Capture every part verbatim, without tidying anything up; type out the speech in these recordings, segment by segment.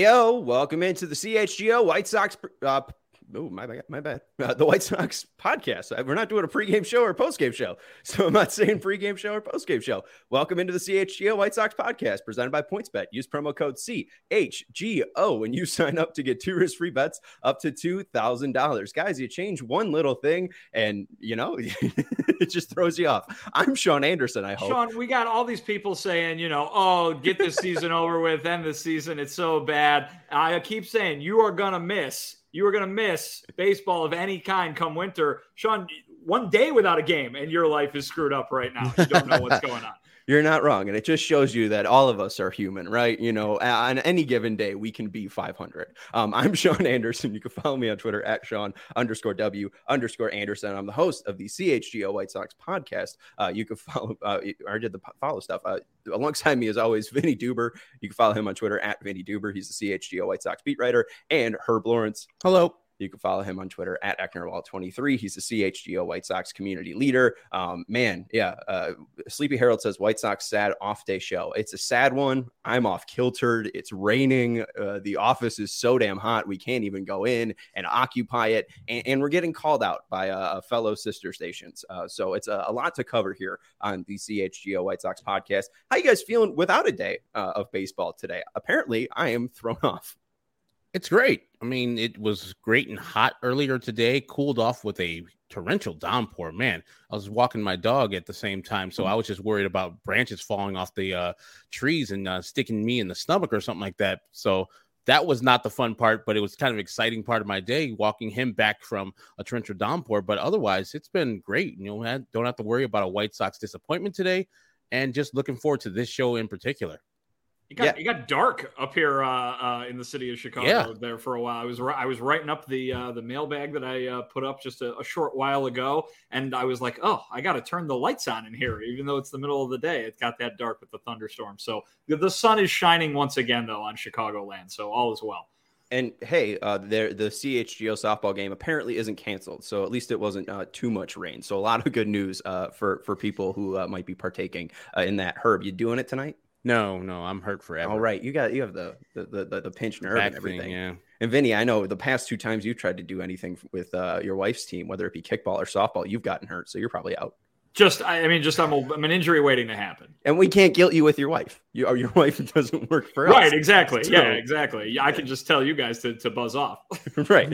Heyo, welcome into the C H G O White Sox. Uh, oh, my bad, my bad. Uh, the White Sox podcast. We're not doing a pregame show or postgame show, so I'm not saying pregame show or postgame show. Welcome into the C H G O White Sox podcast presented by PointsBet. Use promo code C H G O when you sign up to get two risk-free bets up to two thousand dollars. Guys, you change one little thing, and you know it just throws you off. I'm Sean Anderson. I hope. Sean, we got all these people saying, you know, oh, get this season over with, end the season. It's so bad. I keep saying you are gonna miss. You are going to miss baseball of any kind come winter. Sean, one day without a game and your life is screwed up right now. You don't know what's going on. You're not wrong. And it just shows you that all of us are human, right? You know, on any given day, we can be five hundred. Um, I'm Sean Anderson. You can follow me on Twitter at Sean underscore W underscore Anderson. I'm the host of the C H G O White Sox podcast. Uh, you can follow, uh, I did the follow stuff. Uh, alongside me, as always, Vinny Duber. You can follow him on Twitter at Vinny Duber. He's the C H G O White Sox beat writer. And Herb Lawrence. Hello. You can follow him on Twitter at Ecknerwall twenty-three. He's the C H G O White Sox community leader. Um, man, yeah. Uh, Sleepy Harold says White Sox sad off day show. It's a sad one. I'm off kiltered. It's raining. Uh, the office is so damn hot. We can't even go in and occupy it. And, and we're getting called out by uh, fellow sister stations. Uh, so it's a, a lot to cover here on the C H G O White Sox podcast. How you guys feeling without a day uh, of baseball today? Apparently, I am thrown off. It's great. I mean, it was great and hot earlier today, cooled off with a torrential downpour. Man, I was walking my dog at the same time, so I was just worried about branches falling off the uh, trees and uh, sticking me in the stomach or something like that. So that was not the fun part, but it was kind of exciting part of my day, walking him back from a torrential downpour. But otherwise, it's been great. You know, don't have to worry about a White Sox disappointment today, and just looking forward to this show in particular. It got, yeah. it got dark up here uh, uh, in the city of Chicago yeah. there for a while. I was I was writing up the uh, the mailbag that I uh, put up just a, a short while ago, and I was like, oh, I got to turn the lights on in here, even though it's the middle of the day. It got that dark with the thunderstorm. So the sun is shining once again, though, on Chicagoland, so all is well. And hey, uh, there the C H G O softball game apparently isn't canceled, so at least it wasn't uh, too much rain. So a lot of good news uh, for, for people who uh, might be partaking uh, in that. Herb, you doing it tonight? No, no, I'm hurt forever. All right, you got you have the the the, the pinched nerve Back and everything. Thing, yeah. And Vinny, I know the past two times you've tried to do anything with uh, your wife's team, whether it be kickball or softball, you've gotten hurt, so you're probably out. Just, I mean, just I'm, a, I'm an injury waiting to happen. And we can't guilt you with your wife. You, or your wife doesn't work for right, us. Right, exactly. So, yeah, exactly. Yeah, I can just tell you guys to, to buzz off. Right.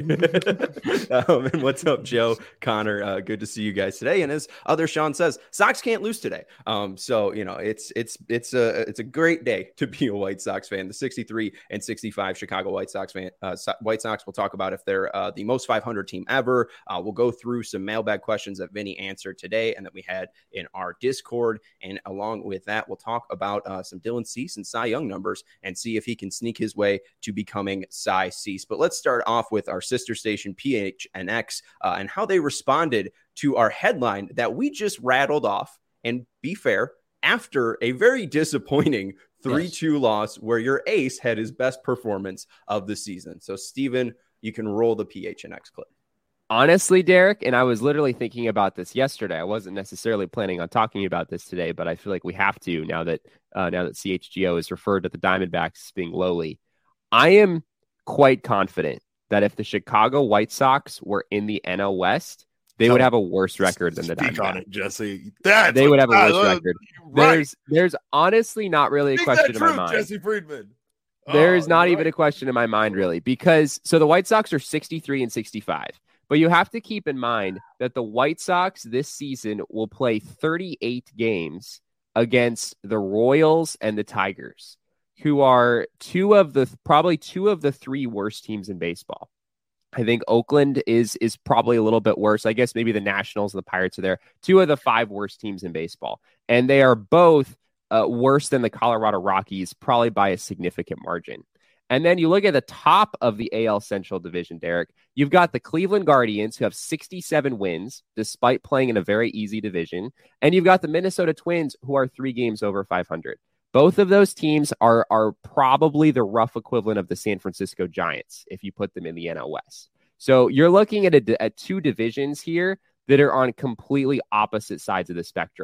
um, and what's up, Joe, Connor? Uh, good to see you guys today. And as other Sean says, Sox can't lose today. Um, so you know, it's it's it's a it's a great day to be a White Sox fan. The sixty-three and sixty-five Chicago White Sox fan, uh, White Sox. We'll talk about if they're uh, the most five hundred team ever. Uh, we'll go through some mailbag questions that Vinny answered today and that we had in our Discord, and along with that, we'll talk about uh, some Dylan Cease and Cy Young numbers and see if he can sneak his way to becoming Cy Cease. But let's start off with our sister station P H N X uh, and how they responded to our headline that we just rattled off. And be fair, after a very disappointing three two yes. loss where your ace had his best performance of the season. So, Steven, you can roll the P H N X clip. Honestly, Derek, and I was literally thinking about this yesterday. I wasn't necessarily planning on talking about this today, but I feel like we have to now that uh, now that C H G O is referred to the Diamondbacks as being lowly. I am quite confident that if the Chicago White Sox were in the N L West, they would have a worse record than the Diamondbacks. Speak on it, Jesse. That's they would have a worse uh, record. Right. There's there's honestly not really a Speak question in truth, my mind. Jesse Friedman. There is oh, not right. even a question in my mind, really, because so the White Sox are sixty-three and sixty-five. But you have to keep in mind that the White Sox this season will play thirty-eight games against the Royals and the Tigers, who are two of the probably two of the three worst teams in baseball. I think Oakland is is probably a little bit worse. I guess maybe the Nationals and the Pirates are there. Two of the five worst teams in baseball. And they are both uh, worse than the Colorado Rockies, probably by a significant margin. And then you look at the top of the A L Central Division, Derek. You've got the Cleveland Guardians, who have sixty-seven wins, despite playing in a very easy division. And you've got the Minnesota Twins, who are three games over five hundred. Both of those teams are, are probably the rough equivalent of the San Francisco Giants, if you put them in the N L West. So you're looking at, a, at two divisions here that are on completely opposite sides of the spectrum.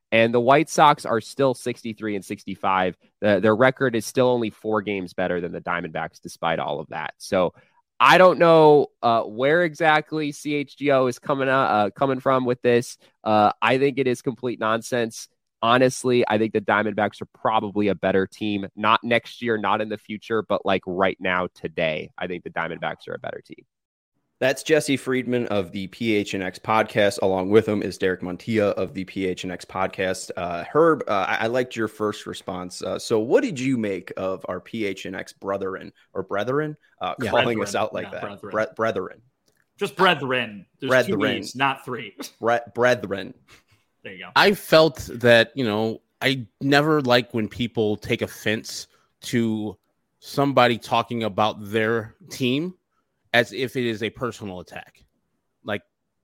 And the White Sox are still sixty-three and sixty-five. The, their record is still only four games better than the Diamondbacks, despite all of that. So I don't know uh, where exactly C H G O is coming out, uh, coming from with this. Uh, I think it is complete nonsense. Honestly, I think the Diamondbacks are probably a better team. Not next year, not in the future, but like right now, today, I think the Diamondbacks are a better team. That's Jesse Friedman of the P H N X podcast. Along with him is Derek Montilla of the P H N X podcast. Uh, Herb, uh, I-, I liked your first response. Uh, so what did you make of our P H N X brethren or brethren uh, yeah, calling brethren. us out like yeah, that? Brethren. Bre- brethren. Just brethren. There's brethren. two E's, not three. Bre- brethren. There you go. I felt that, you know, I never like when people take offense to somebody talking about their team as if it is a personal attack. Like,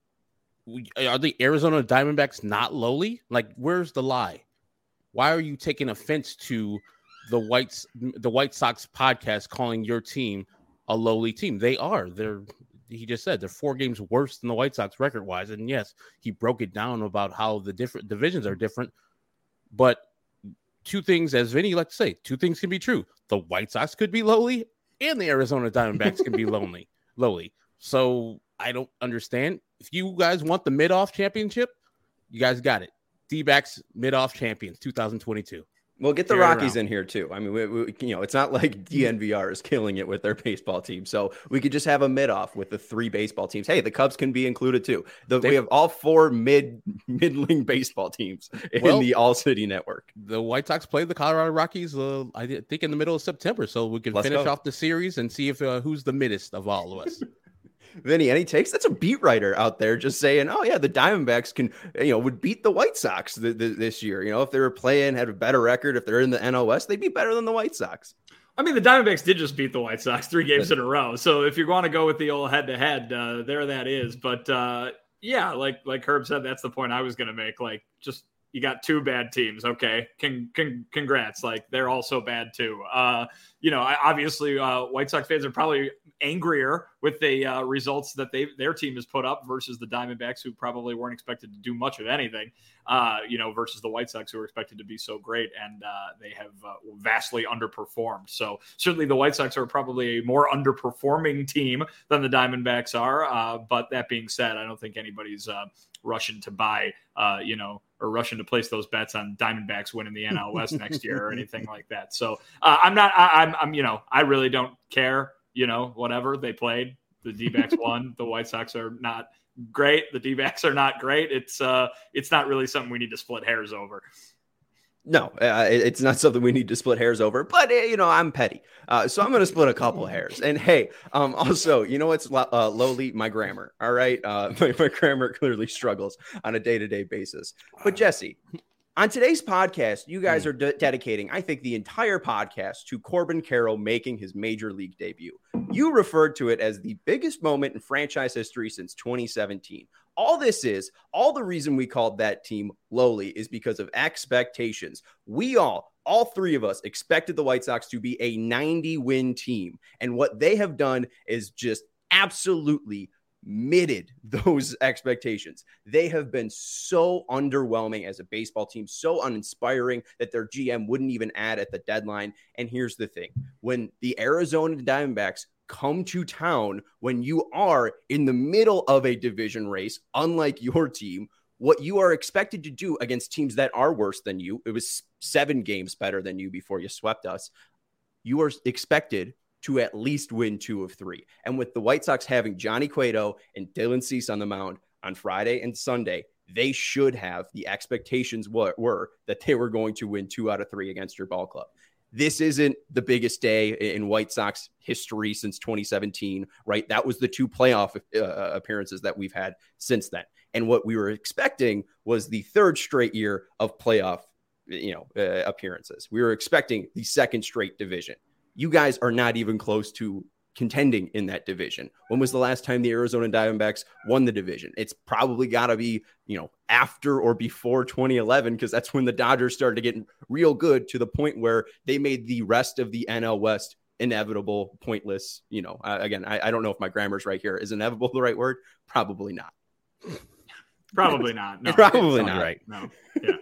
are the Arizona Diamondbacks not lowly? Like, where's the lie? Why are you taking offense to the Whites, the White Sox podcast calling your team a lowly team? They are. They're. He just said they're four games worse than the White Sox record-wise. And yes, he broke it down about how the different divisions are different. But two things, as Vinny likes to say, two things can be true. The White Sox could be lowly, and the Arizona Diamondbacks can be lonely, lowly. So I don't understand. If you guys want the mid-off championship, you guys got it. D-backs mid-off champions, two thousand twenty-two. Well, get the Carry Rockies around. in here too. I mean, we, we, you know, it's not like D N V R is killing it with their baseball team, so we could just have a mid off with the three baseball teams. Hey, the Cubs can be included too. The, They, we have all four mid middling baseball teams in well, the All City Network. The White Sox played the Colorado Rockies, uh, I think, in the middle of September, so we can Let's finish go. off the series and see if uh, who's the middest of all of us. Vinny, any takes? That's a beat writer out there just saying, oh, yeah, the Diamondbacks can, you know, would beat the White Sox th- th- this year. You know, if they were playing, had a better record, if they're in the N L West, they'd be better than the White Sox. I mean, the Diamondbacks did just beat the White Sox three games in a row. So if you want to go with the old head-to-head, uh, there that is. But, uh, yeah, like like Herb said, that's the point I was going to make. Like, just you got two bad teams. Okay, con- con- congrats. Like, they're also bad, too. Uh, you know, I, obviously, uh, White Sox fans are probably angrier with the uh, results that they their team has put up versus the Diamondbacks, who probably weren't expected to do much of anything, uh, you know, versus the White Sox, who were expected to be so great, and uh, they have uh, vastly underperformed. So certainly the White Sox are probably a more underperforming team than the Diamondbacks are. Uh, but that being said, I don't think anybody's uh, rushing to buy, uh, you know, or rushing to place those bets on Diamondbacks winning the N L West next year or anything like that. So uh, I'm not, I, I'm, I'm, you know, I really don't care. You know, whatever they played, the D-backs won. The White Sox are not great. The D-backs are not great. It's uh, it's not really something we need to split hairs over. No, uh, it- it's not something we need to split hairs over, but uh, you know, I'm petty. Uh, so I'm going to split a couple hairs. And hey, um, also, you know, what's lo- uh, lowly, my grammar. All right. Uh, my, my grammar clearly struggles on a day-to-day basis, but Jesse, on today's podcast, you guys are de- dedicating, I think, the entire podcast to Corbin Carroll making his major league debut. You referred to it as the biggest moment in franchise history since twenty seventeen. All this is, all the reason we called that team lowly is because of expectations. We all, all three of us, expected the White Sox to be a ninety-win team. And what they have done is just absolutely mitted those expectations. They have been so underwhelming as a baseball team, so uninspiring that their G M wouldn't even add at the deadline. And here's the thing. When the Arizona Diamondbacks come to town, when you are in the middle of a division race, unlike your team, what you are expected to do against teams that are worse than you, it was seven games better than you before you swept us, you are expected to at least win two of three. And with the White Sox having Johnny Cueto and Dylan Cease on the mound on Friday and Sunday, they should have, the expectations were, were that they were going to win two out of three against your ball club. This isn't the biggest day in White Sox history since twenty seventeen, right? That was the two playoff uh, appearances that we've had since then. And what we were expecting was the third straight year of playoff, you know, uh, appearances. We were expecting the second straight division. You guys are not even close to contending in that division. When was the last time the Arizona Diamondbacks won the division? It's probably got to be, you know, after or before twenty eleven, because that's when the Dodgers started getting real good to the point where they made the rest of the N L West inevitable, pointless. You know, uh, again, I, I don't know if my grammar's right here. Is inevitable the right word? Probably not. Probably not. No, Probably not. Right. No. Yeah.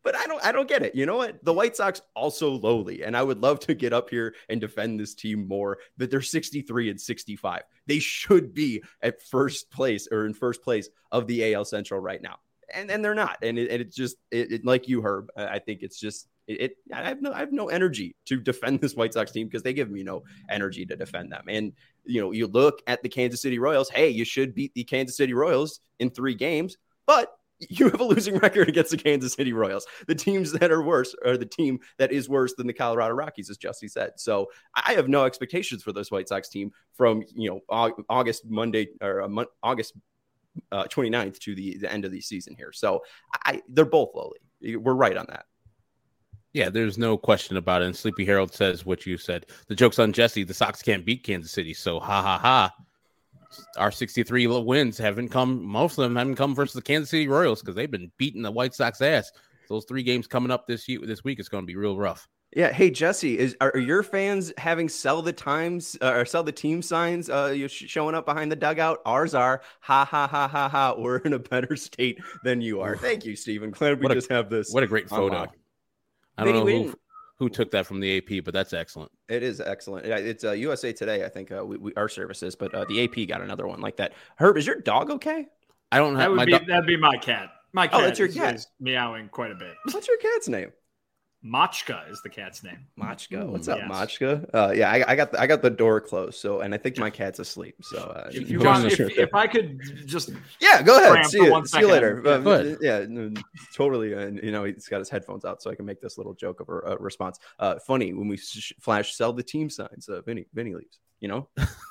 But I don't I don't get it. You know what? The White Sox also lowly, and I would love to get up here and defend this team more, but they're sixty-three and sixty-five. They should be at first place or in first place of the A L Central right now. And and they're not. And it, and it's just it, it, like you, Herb, I think it's just it, it I have no I have no energy to defend this White Sox team because they give me no energy to defend them. And you know, you look at the Kansas City Royals, hey, you should beat the Kansas City Royals in three games, but you have a losing record against the Kansas City Royals. The teams that are worse are the team that is worse than the Colorado Rockies, as Justy said. So I have no expectations for this White Sox team from, you know, August Monday or uh, August uh, twenty-ninth to the, the end of the season here. So I, they're both lowly. We're right on that. Yeah, there's no question about it. And Sleepy Harold says what you said. The joke's on Jesse. The Sox can't beat Kansas City. So ha ha ha. Our sixty-three wins haven't come, most of them haven't come versus the Kansas City Royals because they've been beating the White Sox ass. Those three games coming up this year, this week, it's going to be real rough. Yeah. Hey, Jesse, is are, are your fans having sell the times uh, or sell the team signs uh, you sh- showing up behind the dugout? Ours are ha ha ha ha ha. We're in a better state than you are. Thank you, Stephen. Glad we what just a, have this. What a great photo. Unlocked. I don't know who, who took that from the A P, but that's excellent. It is excellent. It's uh, U S A Today, I think, uh, we, we our services, but uh, the A P got another one like that. Herb, is your dog okay? I don't have that would my be do- that'd be my cat. My cat. Oh, that's your is, cat. is meowing quite a bit. What's your cat's name? Machka is the cat's name. Machka. What's up, yes. Machka? Uh, yeah, I, I got the, I got the door closed, so and I think my cat's asleep. So uh, if you want, if, if I could just yeah, go ahead. See you, see you later. Yeah, uh, yeah no, totally. And uh, you know, he's got his headphones out, so I can make this little joke of a uh, response. Uh, funny when we sh- flash sell the team signs. Uh, Vinny, Vinny leaves. You know.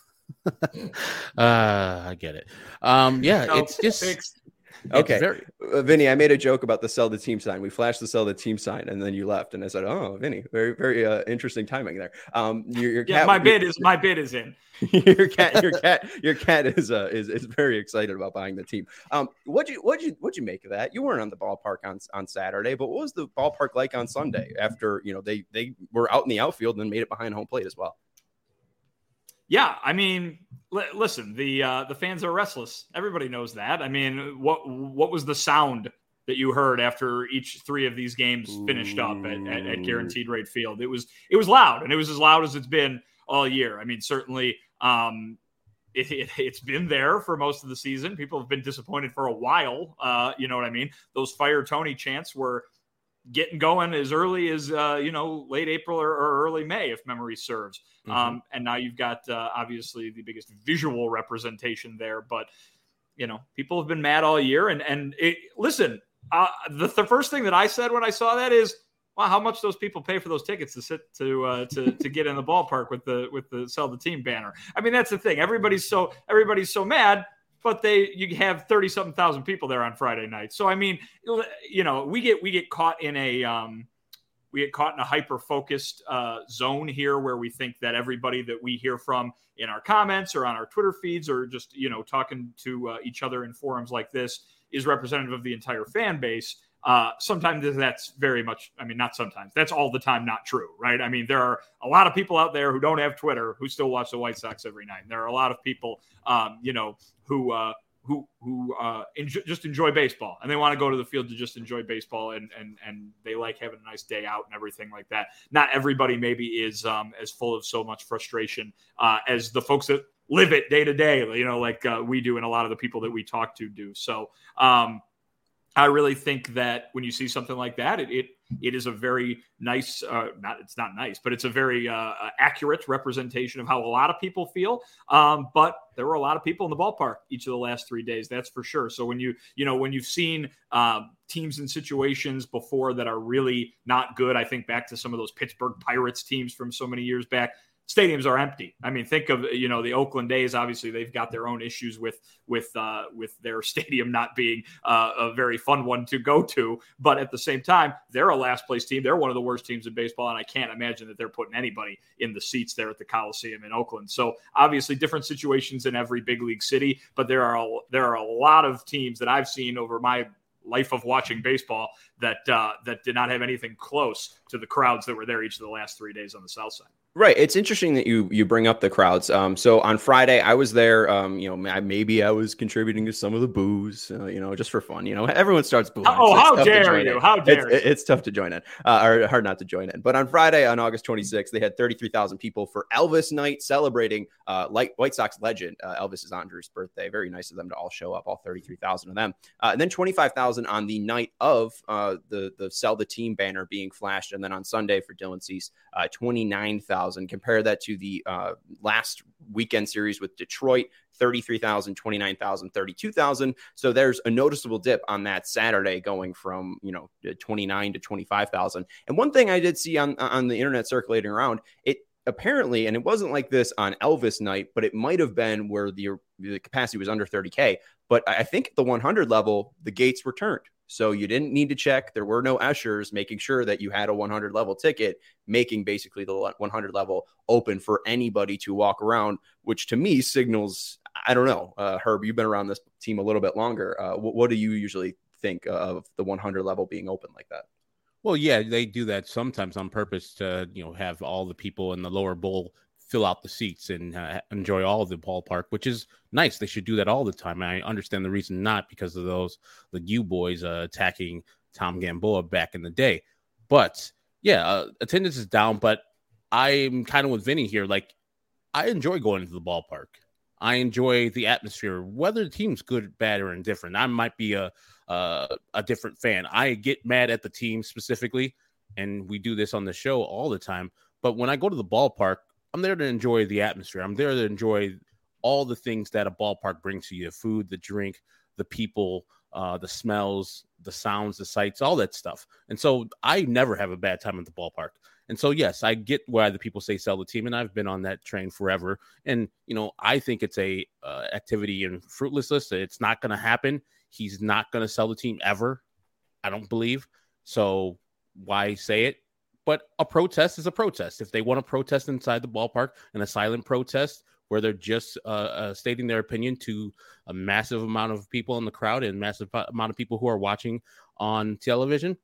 uh, I get it. Um, yeah, no, it's just. fixed. Okay, very... uh, Vinny, I made a joke about the sell the team sign. We flashed the sell the team sign, and then you left, and I said, "Oh, Vinny, very, very uh, interesting timing there." Um, your, your yeah, cat, my bid is my bid is in. your cat, your cat, your cat is uh is, is very excited about buying the team. Um, what you what you what you make of that? You weren't on the ballpark on on Saturday, but what was the ballpark like on Sunday? After you know they they were out in the outfield and made it behind home plate as well. Yeah, I mean, l- listen, the uh, the fans are restless. Everybody knows that. I mean, what what was the sound that you heard after each three of these games finished up at, at, at Guaranteed Rate Field? It was it was loud, and it was as loud as it's been all year. I mean, certainly, um, it, it, it's been there for most of the season. People have been disappointed for a while. Uh, you know what I mean? Those Fire Tony chants were getting going as early as, uh, you know, late April or, or early May, if memory serves. Mm-hmm. Um, and now you've got, uh, obviously, the biggest visual representation there. But, you know, people have been mad all year. And, and it, listen, uh, the, the first thing that I said when I saw that is, wow, how much those people pay for those tickets to sit to uh, to to get in the ballpark with the with the sell the team banner. I mean, that's the thing. Everybody's so everybody's so mad. But they, you have thirty something thousand people there on Friday night. So I mean, you know, we get we get caught in a um, we get caught in a hyper focused uh, zone here where we think that everybody that we hear from in our comments or on our Twitter feeds or just you know talking to uh, each other in forums like this is representative of the entire fan base. Uh, sometimes that's very much, I mean, not sometimes, that's all the time not true, right? I mean, there are a lot of people out there who don't have Twitter who still watch the White Sox every night. And there are a lot of people, um, you know, who uh, who who uh, enjoy, just enjoy baseball and they want to go to the field to just enjoy baseball and and and they like having a nice day out and everything like that. Not everybody maybe is um, as full of so much frustration uh, as the folks that live it day to day, you know, like uh, we do and a lot of the people that we talk to do. So, um, I really think that when you see something like that, it it, it is a very nice, uh, not it's not nice, but it's a very uh, accurate representation of how a lot of people feel. Um, but there were a lot of people in the ballpark each of the last three days, that's for sure. So when you you know when you've seen um, teams in situations before that are really not good, I think back to some of those Pittsburgh Pirates teams from so many years back. Stadiums are empty. I mean, think of, you know, the Oakland A's. Obviously, they've got their own issues with with uh, with their stadium not being uh, a very fun one to go to. But at the same time, they're a last place team. They're one of the worst teams in baseball, and I can't imagine that they're putting anybody in the seats there at the Coliseum in Oakland. So obviously, different situations in every big league city. But there are a, there are a lot of teams that I've seen over my life of watching baseball that uh, that did not have anything close to the crowds that were there each of the last three days on the South Side. Right. It's interesting that you you bring up the crowds. Um, so on Friday, I was there. Um, you know, maybe I was contributing to some of the boos, uh, you know, just for fun. You know, everyone starts booing. Oh, it's, how it's dare you? In. How dare it's, you? It's tough to join in, uh, or hard not to join in. But on Friday, on August twenty-sixth, they had thirty-three thousand people for Elvis Night, celebrating uh, like White Sox legend uh, Elvis's Andrew's birthday. Very nice of them to all show up, all thirty-three thousand of them, uh, and then twenty-five thousand on the night of uh, the the Sell the Team banner being flashed, and then on Sunday for Dylan Cease, uh, twenty-nine thousand. Compare that to the uh, last weekend series with Detroit, thirty-three thousand, twenty-nine thousand, thirty-two thousand. So there's a noticeable dip on that Saturday going from, you know, twenty-nine to twenty-five thousand. And one thing I did see on, on the internet circulating around, it apparently, and it wasn't like this on Elvis night, but it might have been where the, the capacity was under thirty K. But I think at the one hundred level, the gates were turned. So you didn't need to check. There were no ushers making sure that you had a one hundred level ticket, making basically the one hundred level open for anybody to walk around, which to me signals, I don't know, uh, Herb, you've been around this team a little bit longer. Uh, what, what do you usually think of the one hundred level being open like that? Well, yeah, they do that sometimes on purpose to, you know, have all the people in the lower bowl fill out the seats and uh, enjoy all of the ballpark, which is nice. They should do that all the time. I understand the reason not because of those, the U boys uh, attacking Tom Gamboa back in the day. But yeah, uh, attendance is down, but I'm kind of with Vinny here. Like, I enjoy going to the ballpark. I enjoy the atmosphere, whether the team's good, bad, or indifferent. I might be a, uh, a different fan. I get mad at the team specifically, and we do this on the show all the time. But when I go to the ballpark, I'm there to enjoy the atmosphere. I'm there to enjoy all the things that a ballpark brings to you: the food, the drink, the people, uh, the smells, the sounds, the sights, all that stuff. And so I never have a bad time at the ballpark. And so, yes, I get why the people say sell the team, and I've been on that train forever. And, you know, I think it's a uh, activity and fruitlessness. It's not going to happen. He's not going to sell the team ever, I don't believe. So why say it? But a protest is a protest. If they want to protest inside the ballpark, and a silent protest where they're just uh, uh, stating their opinion to a massive amount of people in the crowd and massive amount of people who are watching on television,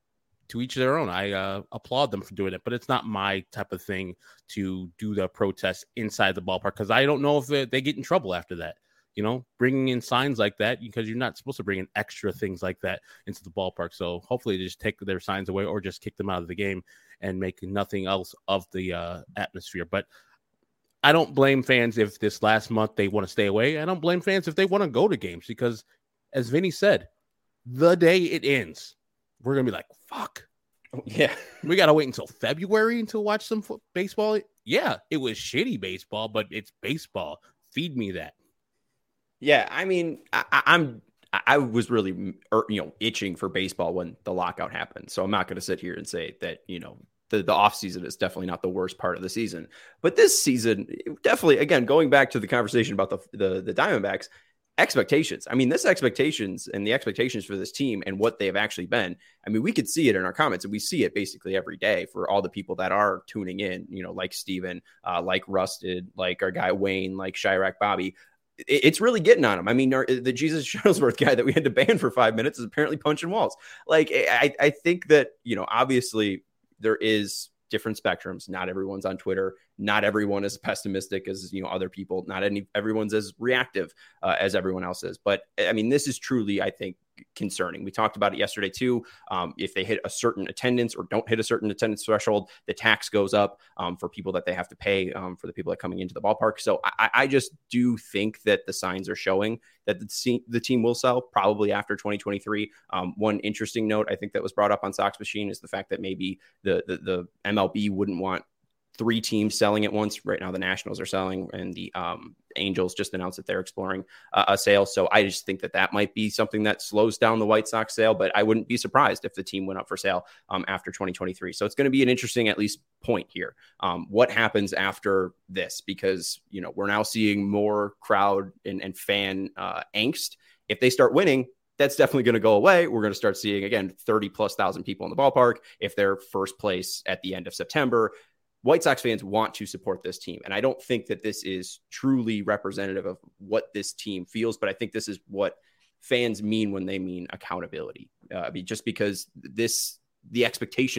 to each their own. I uh, applaud them for doing it, but it's not my type of thing to do the protest inside the ballpark because I don't know if they, they get in trouble after that. You know, bringing in signs like that, because you're not supposed to bring in extra things like that into the ballpark. So hopefully they just take their signs away or just kick them out of the game and make nothing else of the uh, atmosphere. But I don't blame fans if this last month they want to stay away. I don't blame fans if they want to go to games because, as Vinny said, the day it ends, we're going to be like, fuck. Yeah. We got to wait until February to watch some fo- baseball. Yeah, it was shitty baseball, but it's baseball. Feed me that. Yeah, I mean, I, I'm I was really, you know, itching for baseball when the lockout happened. So I'm not going to sit here and say that, you know, the, the offseason is definitely not the worst part of the season. But this season, definitely, again, going back to the conversation about the the, the Diamondbacks, expectations. I mean, this expectations and the expectations for this team and what they have actually been. I mean, we could see it in our comments, and we see it basically every day for all the people that are tuning in, you know, like Steven, uh, like Rusted, like our guy Wayne, like Chirac Bobby. It's really getting on him. I mean, our, the Jesus Shuttlesworth guy that we had to ban for five minutes is apparently punching walls. Like, I, I think that, you know, obviously there is different spectrums. Not everyone's on Twitter. Not everyone is pessimistic as, you know, other people. Not any everyone's as reactive uh, as everyone else is. But I mean, this is truly, I think, concerning. We talked about it yesterday too. Um, if they hit a certain attendance or don't hit a certain attendance threshold, the tax goes up um, for people that they have to pay um, for the people that are coming into the ballpark. So I, I just do think that the signs are showing that the, the team will sell probably after twenty twenty-three. Um, one interesting note I think that was brought up on Sox Machine is the fact that maybe the the, the M L B wouldn't want three teams selling at once. Right now, the Nationals are selling, and the um, Angels just announced that they're exploring uh, a sale. So I just think that that might be something that slows down the White Sox sale, but I wouldn't be surprised if the team went up for sale um, after twenty twenty-three. So it's going to be an interesting, at least, point here. Um, what happens after this? Because, you know, we're now seeing more crowd and, and fan uh, angst. If they start winning, that's definitely going to go away. We're going to start seeing, again, thirty plus thousand people in the ballpark. If they're first place at the end of September, White Sox fans want to support this team. And I don't think that this is truly representative of what this team feels, but I think this is what fans mean when they mean accountability. Uh, I mean, just because this, the expectations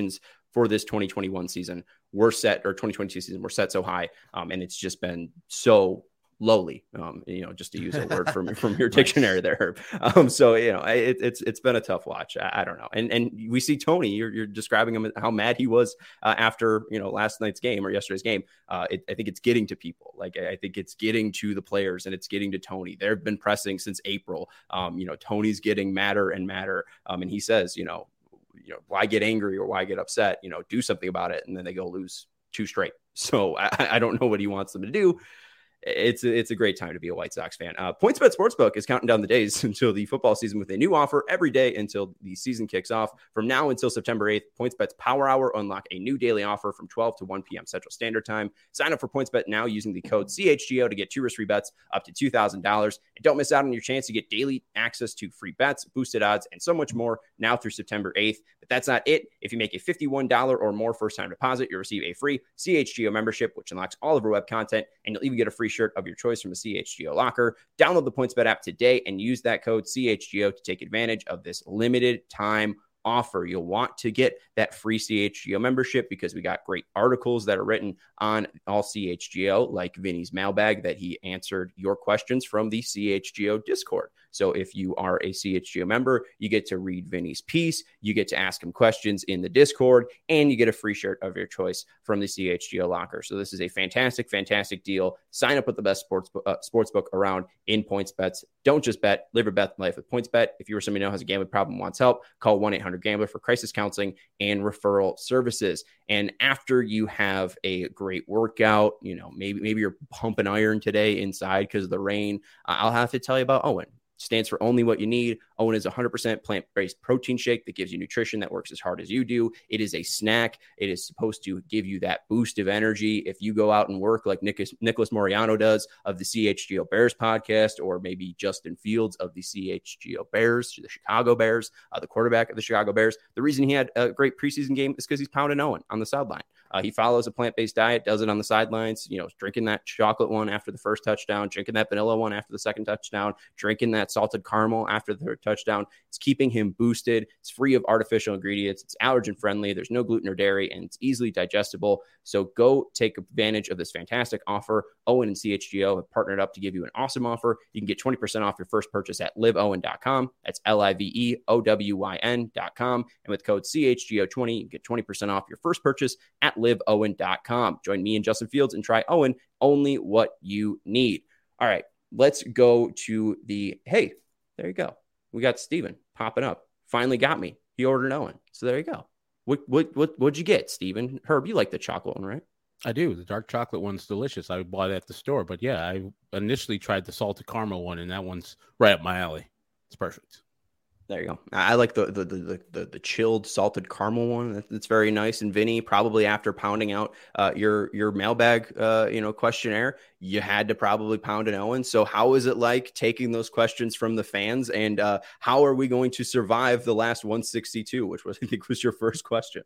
for this twenty twenty-one season were set, or twenty twenty-two season were set so high. Um, and it's just been so lowly, um, you know, just to use a word from from your dictionary there. Um, so you know, it, it's it's been a tough watch. I, I don't know, and and we see Tony. You're, you're describing him how mad he was uh, after you know last night's game or yesterday's game. Uh, it, I think it's getting to people. Like I think it's getting to the players, and it's getting to Tony. They've been pressing since April. Um, you know, Tony's getting madder and madder, um, and he says, you know, you know, why get angry or why get upset? You know, do something about it, and then they go lose two straight. So I, I don't know what he wants them to do. It's a, it's a great time to be a White Sox fan. Uh, PointsBet Sportsbook is counting down the days until the football season with a new offer every day until the season kicks off. From now until September eighth, PointsBet's Power Hour unlock a new daily offer from twelve to one p.m. Central Standard Time. Sign up for PointsBet now using the code C H G O to get two risk-free bets up to two thousand dollars. And don't miss out on your chance to get daily access to free bets, boosted odds, and so much more now through September eighth. But that's not it. If you make a fifty-one dollars or more first-time deposit, you'll receive a free C H G O membership, which unlocks all of our web content, and you'll even get a free shirt of your choice from a C H G O locker. Download the PointsBet app today and use that code C H G O to take advantage of this limited time offer. You'll want to get that free C H G O membership because we got great articles that are written on all C H G O, like Vinny's mailbag that he answered your questions from the C H G O Discord. So if you are a C H G O member, you get to read Vinny's piece, you get to ask him questions in the Discord, and you get a free shirt of your choice from the C H G O locker. So this is a fantastic, fantastic deal. Sign up with the best sports uh, sportsbook around in PointsBets. Don't just bet, live your best life with PointsBet. If you or somebody you know has a gambling problem, wants help, call one eight hundred gambler for crisis counseling and referral services. And after you have a great workout, you know, maybe maybe you're pumping iron today inside because of the rain, uh, I'll have to tell you about Owen. Stands for only what you need. Owen is a one hundred percent plant-based protein shake that gives you nutrition that works as hard as you do. It is a snack. It is supposed to give you that boost of energy. If you go out and work like Nicholas, Nicholas Moriano does of the C H G O Bears podcast, or maybe Justin Fields of the C H G O Bears, the Chicago Bears, uh, the quarterback of the Chicago Bears, the reason he had a great preseason game is because he's pounding Owen on the sideline. Uh, he follows a plant-based diet, does it on the sidelines, you know, drinking that chocolate one after the first touchdown, drinking that vanilla one after the second touchdown, drinking that salted caramel after the third touchdown. It's keeping him boosted. It's free of artificial ingredients. It's allergen friendly. There's no gluten or dairy, and it's easily digestible. So go take advantage of this fantastic offer. Owen and C H G O have partnered up to give you an awesome offer. You can get twenty percent off your first purchase at live owen dot com. That's L I V E O W Y N dot com. And with code C H G O twenty, you can get twenty percent off your first purchase at live owen dot com. Join me and Justin Fields and try Owen, only what you need. All right, let's go to the, hey, there you go. We got Steven popping up. Finally got me. He ordered Owen. So there you go. What what what what'd you get, Steven? Herb, you like the chocolate one, right? I do. The dark chocolate one's delicious. I bought it at the store, but yeah, I initially tried the salted caramel one, and that one's right up my alley. It's perfect. There you go. I like the the the the, the chilled salted caramel one. That's very nice. And Vinny, probably after pounding out uh, your your mailbag, uh, you know, questionnaire, you had to probably pound an Owen. So how is it like taking those questions from the fans, and uh, how are we going to survive the last one sixty-two, which was I think was your first question?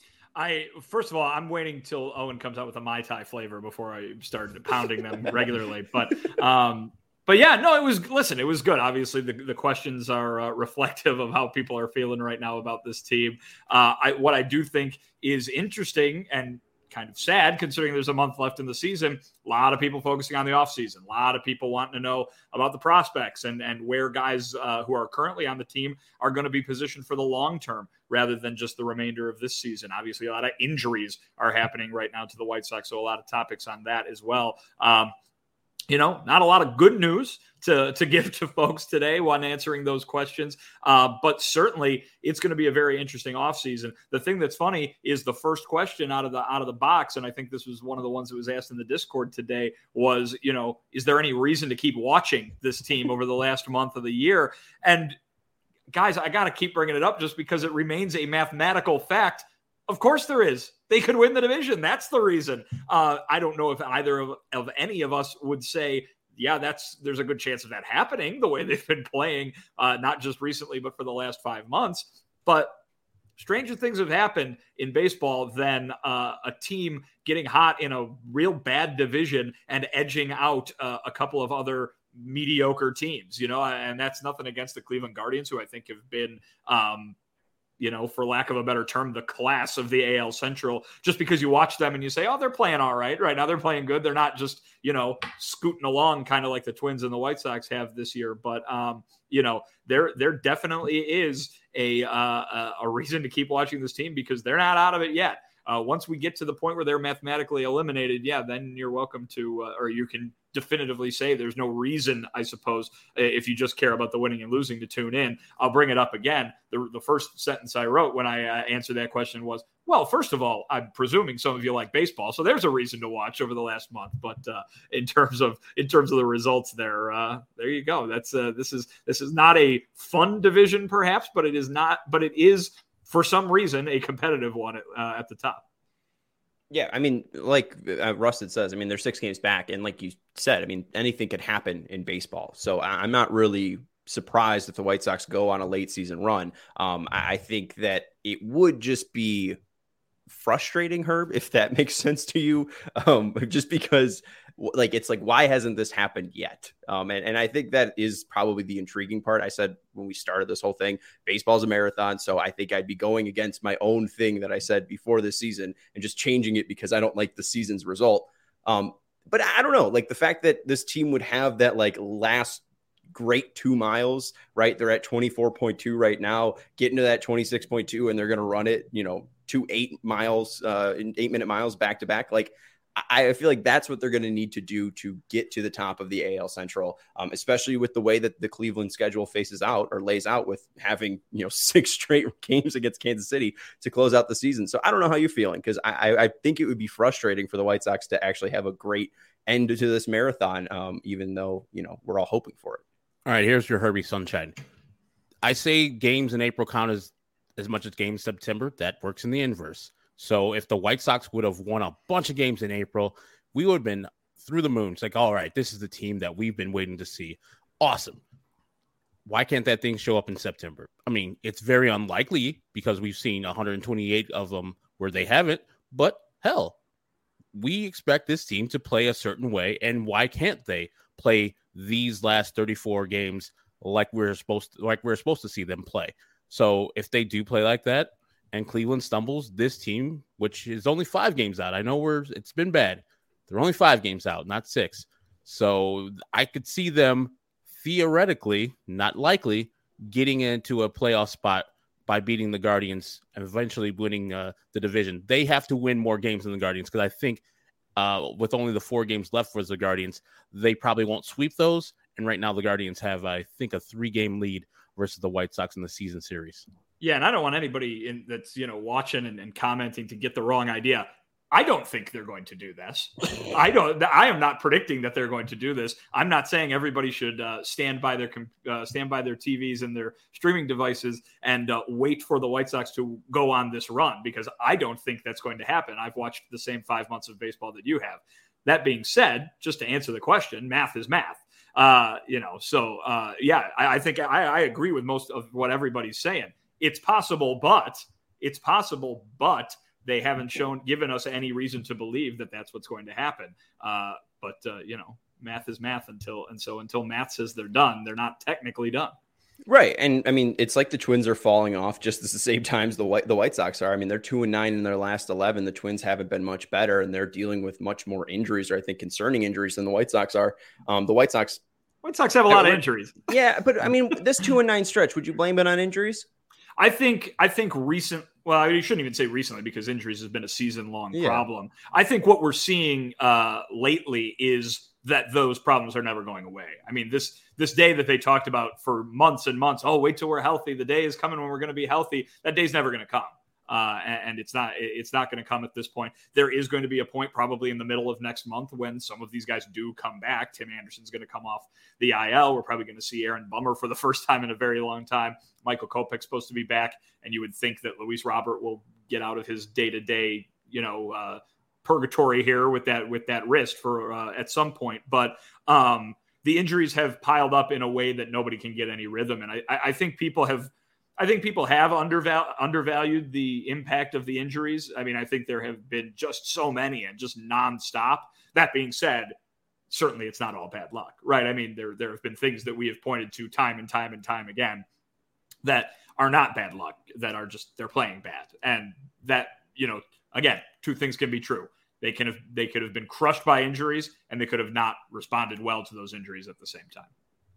I first of all, I'm waiting till Owen comes out with a Mai Tai flavor before I start pounding them regularly. But um, but yeah, no, it was. Listen, it was good. Obviously, the, the questions are uh, reflective of how people are feeling right now about this team. Uh, I what I do think is interesting and kind of sad, considering there's a month left in the season. A lot of people focusing on the offseason. A lot of people wanting to know about the prospects and, and where guys uh, who are currently on the team are going to be positioned for the long term rather than just the remainder of this season. Obviously, a lot of injuries are happening right now to the White Sox, so a lot of topics on that as well. Um, You know, not a lot of good news to, to give to folks today when answering those questions. Uh, but certainly it's going to be a very interesting offseason. The thing that's funny is the first question out of the out of the box, and I think this was one of the ones that was asked in the Discord today, was, you know, is there any reason to keep watching this team over the last month of the year? And guys, I got to keep bringing it up just because it remains a mathematical fact. Of course there is. They could win the division. That's the reason. Uh, I don't know if either of, of any of us would say, yeah, that's there's a good chance of that happening the way they've been playing, uh, not just recently, but for the last five months. But stranger things have happened in baseball than uh, a team getting hot in a real bad division and edging out uh, a couple of other mediocre teams, you know, and that's nothing against the Cleveland Guardians, who I think have been, um, you know, for lack of a better term, the class of the A L Central, just because you watch them and you say, oh, they're playing all right. Right now they're playing good. They're not just, you know, scooting along kind of like the Twins and the White Sox have this year. But, um, you know, there there definitely is a, uh, a reason to keep watching this team because they're not out of it yet. Uh, once we get to the point where they're mathematically eliminated, yeah, then you're welcome to, uh, or you can definitively say there's no reason, I suppose, if you just care about the winning and losing to tune in. I'll bring it up again. The, the first sentence I wrote when I uh, answered that question was, well, first of all, I'm presuming some of you like baseball, so there's a reason to watch over the last month. But uh, in terms of in terms of the results, there, uh, there you go. That's uh, this is this is not a fun division, perhaps, but it is not. But it is, for some reason, a competitive one at, uh, at the top. Yeah, I mean, like uh, Rusted says, I mean, they're six games back. And like you said, I mean, anything could happen in baseball. So I'm not really surprised if the White Sox go on a late season run. Um, I think that it would just be frustrating, Herb, if that makes sense to you, um, just because like, it's like, why hasn't this happened yet? Um, and, and I think that is probably the intriguing part. I said when we started this whole thing, baseball is a marathon. So I think I'd be going against my own thing that I said before this season and just changing it because I don't like the season's result. Um, but I don't know, like the fact that this team would have that like last great two miles, right? They're at twenty-four point two right now, getting to that twenty-six point two, and they're going to run it, you know, two eight miles, uh, in eight minute miles back to back. Like, I feel like that's what they're going to need to do to get to the top of the A L Central, um, especially with the way that the Cleveland schedule faces out or lays out with having, you know, six straight games against Kansas City to close out the season. So I don't know how you're feeling because I, I think it would be frustrating for the White Sox to actually have a great end to this marathon, um, even though, you know, we're all hoping for it. All right, here's your Herbie Sunshine. I say games in April count as, as much as games in September. That works in the inverse. So if the White Sox would have won a bunch of games in April, we would have been through the moon. It's like, all right, this is the team that we've been waiting to see. Awesome. Why can't that thing show up in September? I mean, it's very unlikely because we've seen one hundred twenty-eight of them where they haven't. But hell, we expect this team to play a certain way. And why can't they play these last thirty-four games like we're supposed to, like we're supposed to see them play? So if they do play like that, and Cleveland stumbles, this team, which is only five games out. I know we're it's been bad. They're only five games out, not six. So I could see them theoretically, not likely, getting into a playoff spot by beating the Guardians and eventually winning uh, the division. They have to win more games than the Guardians because I think uh, with only the four games left for the Guardians, they probably won't sweep those. And right now the Guardians have, I think, a three-game lead versus the White Sox in the season series. Yeah, and I don't want anybody in that's, you know, watching and, and commenting to get the wrong idea. I don't think they're going to do this. I don't. I am not predicting that they're going to do this. I'm not saying everybody should uh, stand by their uh, stand by their T Vs and their streaming devices and uh, wait for the White Sox to go on this run because I don't think that's going to happen. I've watched the same five months of baseball that you have. That being said, just to answer the question, math is math. Uh, you know, so uh, yeah, I, I think I, I agree with most of what everybody's saying. It's possible, but it's possible, but they haven't shown, given us any reason to believe that that's what's going to happen. Uh, but, uh, you know, math is math until, and so until math says they're done, they're not technically done. Right. And I mean, it's like the Twins are falling off just at the same time as the White, the White Sox are. I mean, they're two and nine in their last eleven. The Twins haven't been much better and they're dealing with much more injuries or I think concerning injuries than the White Sox are. Um, the White Sox, White Sox have a lot of injuries. Yeah. But I mean, this two and nine stretch, would you blame it on injuries? I think I think recent well, you shouldn't even say recently because injuries has been a season-long yeah. problem. I think what we're seeing uh, lately is that those problems are never going away. I mean, this this day that they talked about for months and months, oh, wait till we're healthy. The day is coming when we're going to be healthy. That day's never going to come. Uh, and, and it's not it's not going to come at this point. There is going to be a point probably in the middle of next month when some of these guys do come back. Tim Anderson's going to come off the I L. We're probably going to see Aaron Bummer for the first time in a very long time. Michael Kopech's supposed to be back, and you would think that Luis Robert will get out of his day-to-day, you know, uh, purgatory here with that with that wrist for uh, at some point. But um, the injuries have piled up in a way that nobody can get any rhythm, and I, I think people have. I think people have underval- undervalued the impact of the injuries. I mean, I think there have been just so many and just nonstop. That being said, certainly it's not all bad luck, right? I mean, there there have been things that we have pointed to time and time and time again that are not bad luck, that are just, they're playing bad. And that, you know, again, two things can be true. They can have, they could have been crushed by injuries, and they could have not responded well to those injuries at the same time.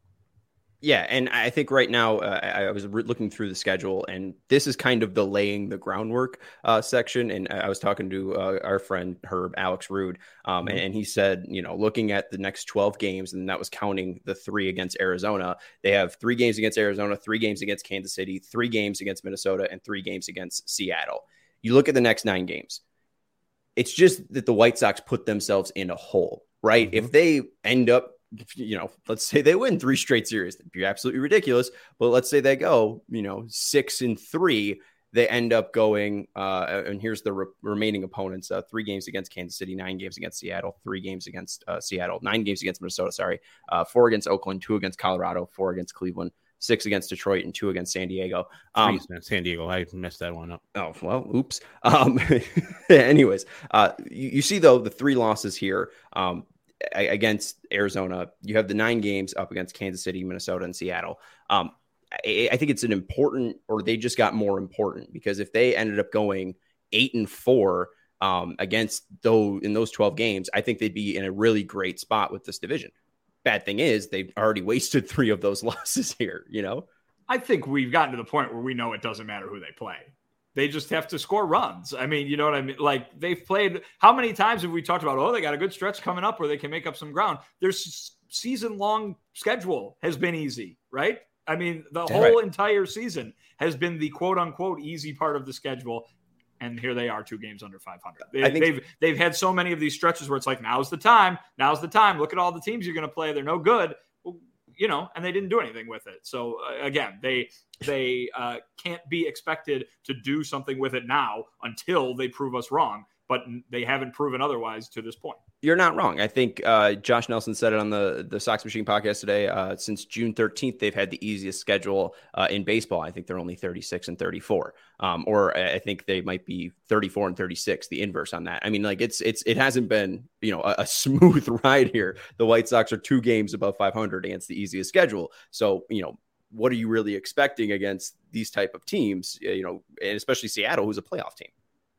Yeah, and I think right now uh, I was re- looking through the schedule, and this is kind of the laying the groundwork uh, section. And I was talking to uh, our friend Herb, Alex Rude, um, mm-hmm. and, and he said, you know, looking at the next twelve games, and that was counting the three against Arizona. They have three games against Arizona, three games against Kansas City, three games against Minnesota, and three games against Seattle. You look at the next nine games. It's just that the White Sox put themselves in a hole, right? Mm-hmm. If they end up, you know, let's say they win three straight series, that'd be absolutely ridiculous. But let's say they go, you know, six and three, they end up going, uh, and here's the re- remaining opponents: uh, three games against Kansas City, nine games against Seattle, three games against uh, Seattle, nine games against Minnesota, sorry, uh, four against Oakland, two against Colorado, four against Cleveland, six against Detroit, and two against San Diego. Um, Three, San Diego, I messed that one up. Oh, well, oops. Um, anyways, uh, you, you see, though, the three losses here. Um, against Arizona, you have the nine games up against Kansas City, Minnesota, and Seattle. Um, I, I think it's an important, or they just got more important, because if they ended up going eight and four um, against those in those twelve games, I think they'd be in a really great spot with this division. Bad thing is they've already wasted three of those losses here. You know, I think we've gotten to the point where we know it doesn't matter who they play. They just have to score runs. I mean, you know what I mean? Like, they've played, how many times have we talked about, oh, they got a good stretch coming up where they can make up some ground? Their season-long schedule has been easy, right? I mean, the whole right. entire season has been the quote-unquote easy part of the schedule. And here they are, two games under five hundred. They, I think they've they've had so many of these stretches where it's like, now's the time. Now's the time. Look at all the teams you're going to play. They're no good. Well, you know, and they didn't do anything with it. So uh, again, they they uh, can't be expected to do something with it now until they prove us wrong. But they haven't proven otherwise to this point. You're not wrong. I think uh, Josh Nelson said it on the, the Sox Machine podcast today. Uh, since June thirteenth, they've had the easiest schedule uh, in baseball. I think they're only thirty-six and thirty-four. Um, or I think they might be thirty-four and thirty-six, the inverse on that. I mean, like it's it's it hasn't been, you know, a, a smooth ride here. The White Sox are two games above five hundred against the easiest schedule. So, you know, what are you really expecting against these type of teams, you know, and especially Seattle, who's a playoff team?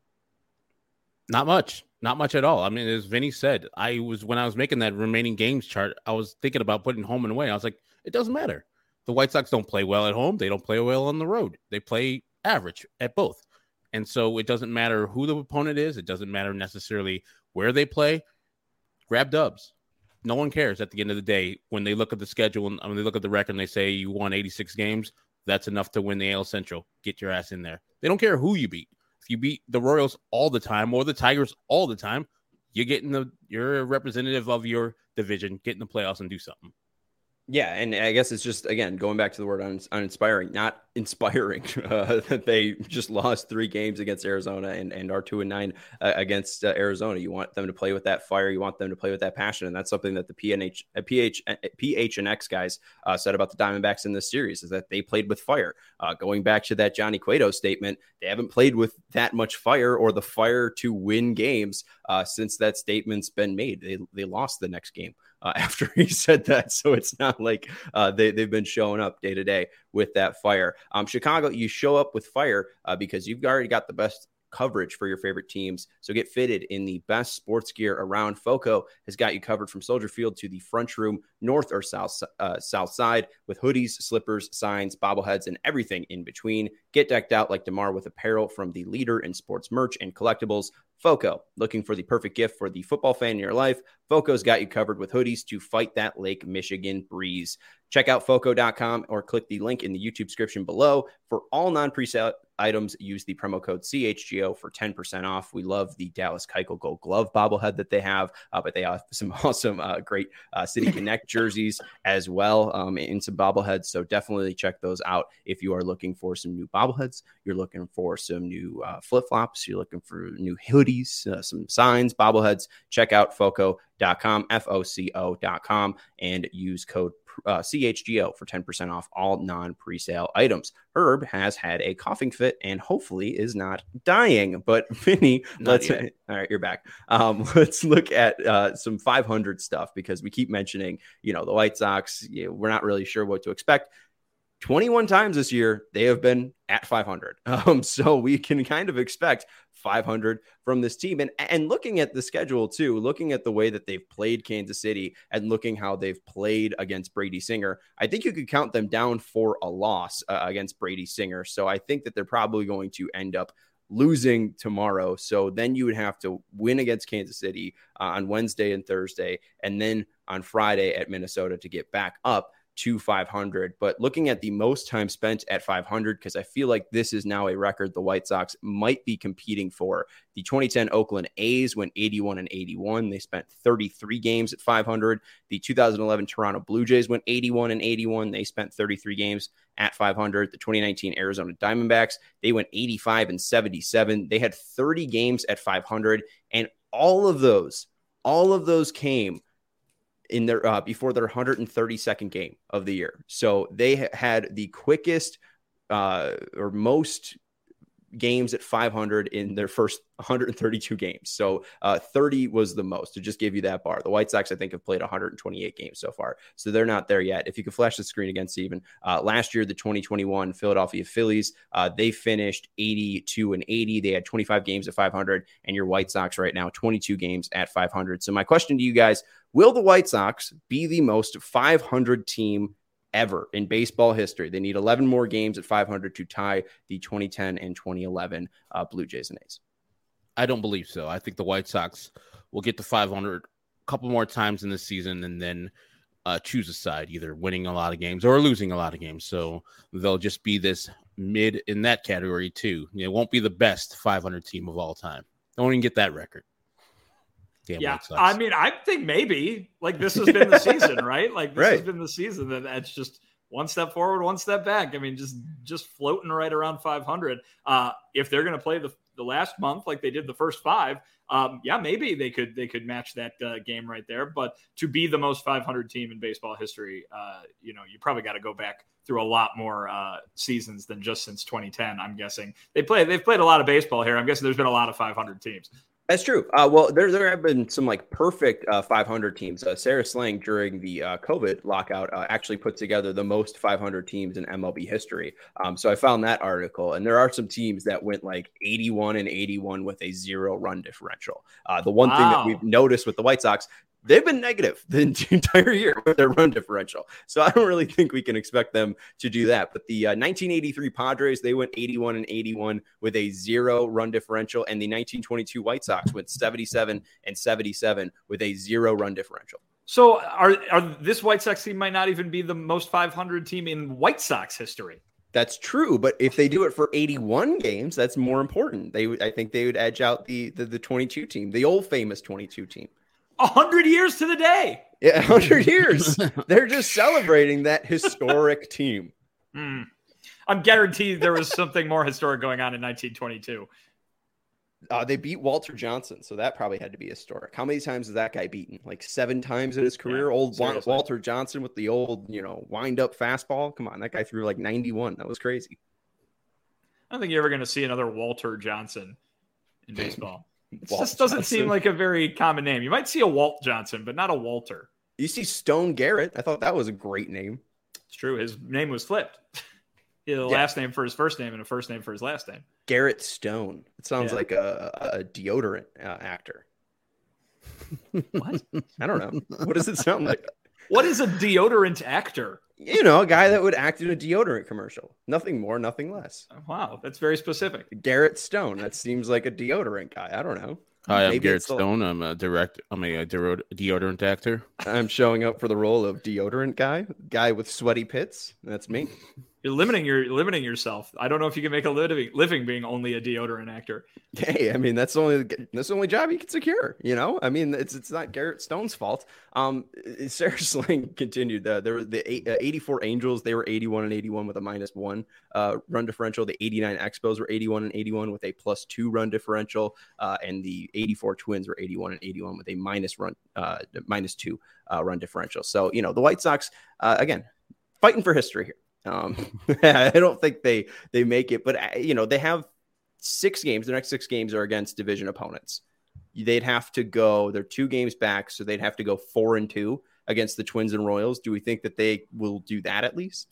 Not much, not much at all. I mean, as Vinny said, I was, when I was making that remaining games chart, I was thinking about putting home and away. I was like, it doesn't matter. The White Sox don't play well at home. They don't play well on the road. They play average at both. And so it doesn't matter who the opponent is. It doesn't matter necessarily where they play. Grab dubs. No one cares at the end of the day when they look at the schedule and when they look at the record and they say you won eighty-six games, that's enough to win the A L Central. Get your ass in there. They don't care who you beat. If you beat the Royals all the time or the Tigers all the time, you're getting the you're a representative of your division, get in the playoffs and do something. Yeah, and I guess it's just, again, going back to the word un- uninspiring, not inspiring uh, that they just lost three games against Arizona and, and are two and nine uh, against uh, Arizona. You want them to play with that fire. You want them to play with that passion. And that's something that the P N H, uh, P H, uh, P H N X guys uh, said about the Diamondbacks in this series, is that they played with fire. Uh, going back to that Johnny Cueto statement, they haven't played with that much fire or the fire to win games uh, since that statement's been made. They, they lost the next game. Uh, after he said that. So it's not like uh, they, they've been showing up day to day with that fire. Um, Chicago, you show up with fire uh, because you've already got the best coverage for your favorite teams. So get fitted in the best sports gear around. Foco has got you covered from Soldier Field to the front room, north or south, uh, south side, with hoodies, slippers, signs, bobbleheads, and everything in between. Get decked out like DeMar with apparel from the leader in sports merch and collectibles, Foco. Looking for the perfect gift for the football fan in your life? Foco's got you covered with hoodies to fight that Lake Michigan breeze. Check out foco dot com or click the link in the YouTube description below. For all non-presale items, use the promo code C H G O for ten percent off. We love the Dallas Keuchel Gold Glove bobblehead that they have, uh, but they have some awesome, uh, great uh, City Connect jerseys as well um, in some bobbleheads. So definitely check those out if you are looking for some new bobbleheads. You're looking for some new uh, flip-flops. You're looking for new hoodies, uh, some signs, bobbleheads. Check out foco dot com, F O C O dot com, and use code uh, C H G O for ten percent off all non-presale items. Herb has had a coughing fit and hopefully is not dying. But Vinny, let's all right, you're back. Um, let's look at uh, some five hundred stuff, because we keep mentioning, you know, the White Sox. You know, we're not really sure what to expect. twenty-one times this year, they have been at five hundred. Um, so we can kind of expect five hundred from this team. And, and looking at the schedule too, looking at the way that they've played Kansas City and looking how they've played against Brady Singer, I think you could count them down for a loss uh, against Brady Singer. So I think that they're probably going to end up losing tomorrow. So then you would have to win against Kansas City uh, on Wednesday and Thursday, and then on Friday at Minnesota to get back up to five hundred. But looking at the most time spent at five hundred, because I feel like this is now a record the White Sox might be competing for. The twenty ten Oakland A's went eighty-one and eighty-one. They spent thirty-three games at five hundred. The two thousand eleven Toronto Blue Jays went eighty-one and eighty-one. They spent thirty-three games at five hundred. The twenty nineteen Arizona Diamondbacks, they went eighty-five and seventy-seven. They had thirty games at five hundred. And all of those, all of those came in their uh, before their one hundred thirty-second game of the year. So they ha- had the quickest uh, or most games at five hundred in their first one hundred thirty-two games. So uh, thirty was the most to just give you that bar. The White Sox, I think, have played one hundred twenty-eight games so far. So they're not there yet. If you could flash the screen again, Steven, uh, last year, the twenty twenty-one Philadelphia Phillies, uh, they finished eighty-two and eighty. They had twenty-five games at five hundred, and your White Sox right now, twenty-two games at five hundred. So my question to you guys, will the White Sox be the most five hundred team ever in baseball history? They need eleven more games at five hundred to tie the twenty ten and twenty eleven uh, Blue Jays and A's. I don't believe so. I think the White Sox will get to five hundred a couple more times in this season and then uh, choose a side, either winning a lot of games or losing a lot of games. So they'll just be this mid in that category too. It won't be the best five hundred team of all time. Don't even get that record. Damn, yeah, I mean, I think maybe like this has been the season, right? Like this right. has been the season that that's just one step forward, one step back. I mean, just just floating right around five hundred. Uh, if they're going to play the, the last month like they did the first five, um, yeah, maybe they could they could match that uh, game right there. But to be the most five hundred team in baseball history, uh, you know, you probably got to go back through a lot more uh, seasons than just since twenty ten. I'm guessing they play they've played a lot of baseball here. I'm guessing there's been a lot of five hundred teams. That's true. Uh, well, there there have been some like perfect uh, five hundred teams. Uh, Sarah Slang during the uh, COVID lockout uh, actually put together the most five hundred teams in M L B history. Um, so I found that article, and there are some teams that went like eighty-one and eighty-one with a zero run differential. Uh, the one wow. thing that we've noticed with the White Sox, they've been negative the entire year with their run differential. So I don't really think we can expect them to do that. But the uh, nineteen eighty-three Padres, they went eighty-one and eighty-one with a zero run differential. And the nineteen twenty-two White Sox went seventy-seven and seventy-seven with a zero run differential. So are, are this White Sox team might not even be the most five hundred team in White Sox history. That's true, but if they do it for eighty-one games, that's more important. They, I think they would edge out the the, the twenty-two team, the old famous twenty-two team. A hundred years to the day. Yeah, a hundred years. They're just celebrating that historic team. Mm. I'm guaranteed there was something more historic going on in nineteen twenty-two. Uh, they beat Walter Johnson, so that probably had to be historic. How many times has that guy beaten? Like seven times in his career? Yeah, old seriously. Walter Johnson with the old, you know, wind-up fastball. Come on, that guy threw like ninety-one. That was crazy. I don't think you're ever going to see another Walter Johnson in baseball. It Walt just doesn't Johnson. seem like a very common name. You might see a Walt Johnson, but not a Walter. You see Stone Garrett. I thought that was a great name. It's true. His name was flipped. He had a yeah. last name for his first name and a first name for his last name. Garrett Stone. It sounds yeah. like a, a deodorant uh, actor. What? I don't know. What does it sound like? What is a deodorant actor? You know, a guy that would act in a deodorant commercial. Nothing more, nothing less. Wow, that's very specific. Garrett Stone. That seems like a deodorant guy. I don't know. Hi, I'm Maybe Garrett Stone. I'm a direct. I'm a, a deodorant actor. I'm showing up for the role of deodorant guy, guy with sweaty pits. That's me. You're limiting your limiting yourself. I don't know if you can make a living living being only a deodorant actor. Hey, I mean that's the only that's the only job you can secure. You know, I mean it's it's not Garrett Stone's fault. Um, Sarah Sling continued. Uh, there were the eight, uh, eighty-four Angels. They were eighty-one and eighty-one with a minus one uh, run differential. The eighty-nine Expos were eighty-one and eighty-one with a plus two run differential, uh, and the eighty-four Twins were eighty-one and eighty-one with a minus run uh, minus two uh, run differential. So you know the White Sox uh, again fighting for history here. Um, I don't think they, they make it, but you know, they have six games. The next six games are against division opponents. They'd have to go, they're two games back. So they'd have to go four and two against the Twins and Royals. Do we think that they will do that at least?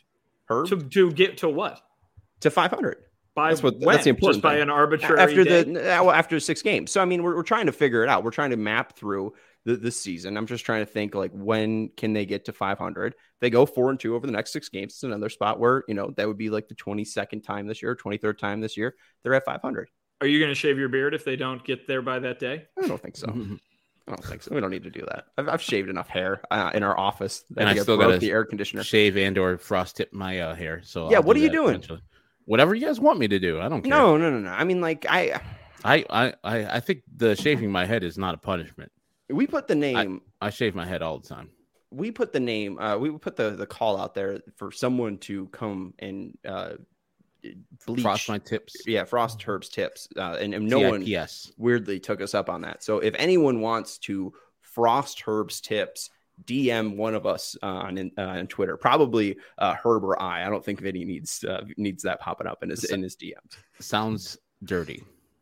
Herb to to get to what? To five hundred. By that's what when? that's the important Just by thing. an arbitrary after day? the well, after six games. So I mean, we're we're trying to figure it out. We're trying to map through the the season. I'm just trying to think like when can they get to five hundred? They go four and two over the next six games. It's another spot where you know that would be like the twenty-second time this year, twenty-third time this year. They're at five hundred. Are you going to shave your beard if they don't get there by that day? I don't think so. I don't think so. We don't need to do that. I've, I've shaved enough hair uh, in our office. That And I I still broke got the air conditioner. Shave and or frost tip my uh, hair. So Yeah, I'll what do are you that doing? eventually. Whatever you guys want me to do. I don't care. No, no, no, no. I mean, like I, I, I, I I think the shaving my head is not a punishment. we put the name. I shave my head all the time. we put the name. Uh, we put the the call out there for someone to come and uh, bleach. Frost my tips. Yeah, Frost Herb's tips, uh, and, and no one Yes. weirdly took us up on that. So if anyone wants to Frost Herb's tips, D M one of us uh, on uh, on Twitter, probably uh, Herb or I. I don't think Vinny needs uh, needs that popping up in his in his D Ms. Sounds dirty.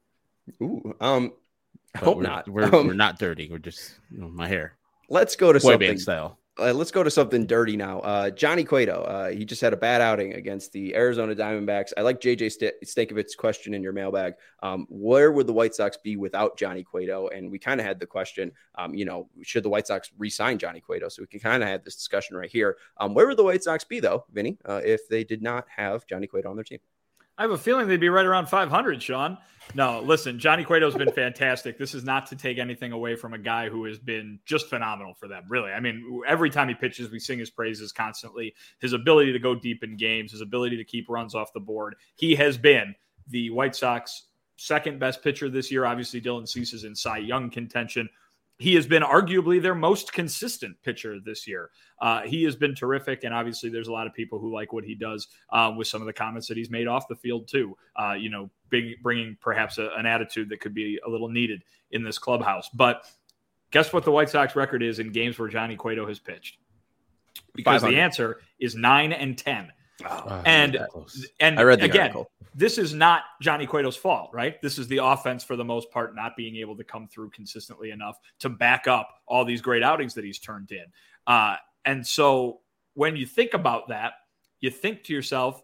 Ooh, um, I But hope we're, not. We're, Um, we're not dirty. We're just you know, my hair. Let's go to Boy something. band style. Uh, let's go to something dirty now. Uh, Johnny Cueto, uh, he just had a bad outing against the Arizona Diamondbacks. I like J J St- Stankovic's question in your mailbag. Um, where would the White Sox be without Johnny Cueto? And we kind of had the question, um, you know, should the White Sox re-sign Johnny Cueto? So we can kind of have this discussion right here. Um, where would the White Sox be, though, Vinny, uh, if they did not have Johnny Cueto on their team? I have a feeling they'd be right around five hundred, Sean. No, listen, Johnny Cueto's been fantastic. This is not to take anything away from a guy who has been just phenomenal for them, really. I mean, every time he pitches, we sing his praises constantly. His ability to go deep in games, his ability to keep runs off the board. He has been the White Sox second best pitcher this year. Obviously, Dylan Cease is in Cy Young contention. He has been arguably their most consistent pitcher this year. Uh, he has been terrific, and obviously there's a lot of people who like what he does uh, with some of the comments that he's made off the field too. Uh, you know, big, bringing perhaps a, an attitude that could be a little needed in this clubhouse. But guess what the White Sox record is in games where Johnny Cueto has pitched? Because the answer is nine and ten. Oh, and and I read the again, article. This is not Johnny Cueto's fault, right? This is the offense for the most part not being able to come through consistently enough to back up all these great outings that he's turned in. Uh, and so when you think about that, you think to yourself,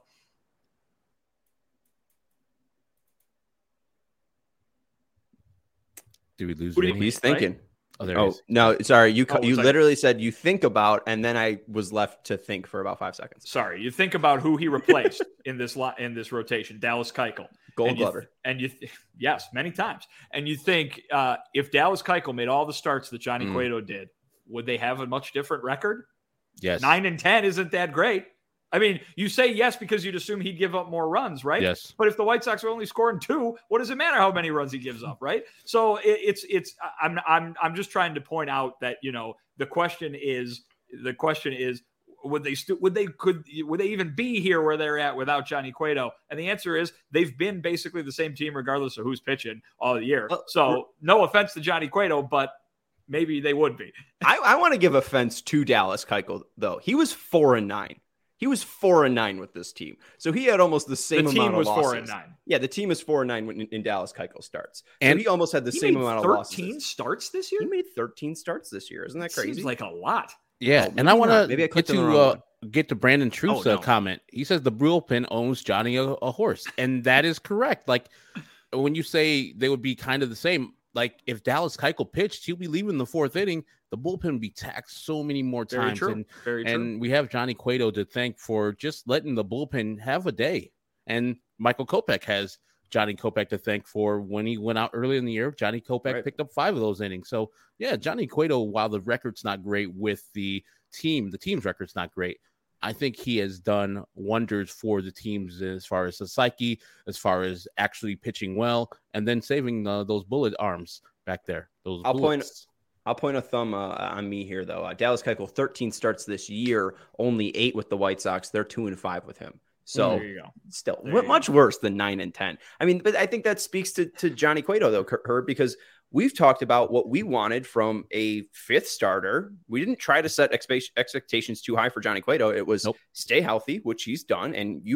Do we lose? Who do you- Vinny? He's thinking. Oh, there it Oh, is. no, sorry. You, Oh, you it's like- literally said you think about, and then I was left to think for about five seconds. sorry, you think about who he replaced in this lot in this rotation, Dallas Keuchel. Gold and you, Glover. and you, th- yes, many times. And you think uh, if Dallas Keuchel made all the starts that Johnny Mm. Cueto did, would they have a much different record? Yes. Nine and ten isn't that great. I mean, you say yes because you'd assume he'd give up more runs, right? Yes. But if the White Sox are only scoring two, what does it matter how many runs he gives up, right? So it, it's it's I'm I'm I'm just trying to point out that you know the question is the question is would they st- would they could would they even be here where they're at without Johnny Cueto? And the answer is they've been basically the same team regardless of who's pitching all year. Well, So no offense to Johnny Cueto, but maybe they would be. I, I want to give offense to Dallas Keuchel, though. He was four and nine. He was four and nine with this team, so he had almost the same The team amount of was losses. four and nine. Yeah, the team is four and nine when in, in Dallas Keuchel starts, so And he almost had the He same made amount of thirteen losses. starts this year. He made thirteen starts this year. Isn't that crazy? Seems like a lot. Yeah, Oh, and I maybe want not. to Maybe I get clicked on the to wrong uh, one. get to Brandon Troop's Oh, uh, no. comment. He says the bullpen owns Johnny a, a horse, and that is correct. Like when you say they would be kind of the same, like if Dallas Keuchel pitched, he'll be leaving the fourth inning. The bullpen would be taxed so many more Very times, true. and Very true. and we have Johnny Cueto to thank for just letting the bullpen have a day. And Michael Kopech has Johnny Kopech to thank for when he went out early in the year. Johnny Kopech Right. picked up five of those innings. So yeah, Johnny Cueto, while the record's not great with the team, the team's record's not great. I think he has done wonders for the teams as far as the psyche, as far as actually pitching well, and then saving uh, those bullet arms back there. Those I'll point- bullets. I'll point a thumb uh, on me here, though. Uh, Dallas Keuchel, thirteen starts this year, only eight with the White Sox. They're two and five with him. So there you go. still There w- you much worse than nine and ten. I mean, but I think that speaks to, to Johnny Cueto, though, Herb, because we've talked about what we wanted from a fifth starter. We didn't try to set expe- expectations too high for Johnny Cueto. It was Nope. stay healthy, which he's done, and you've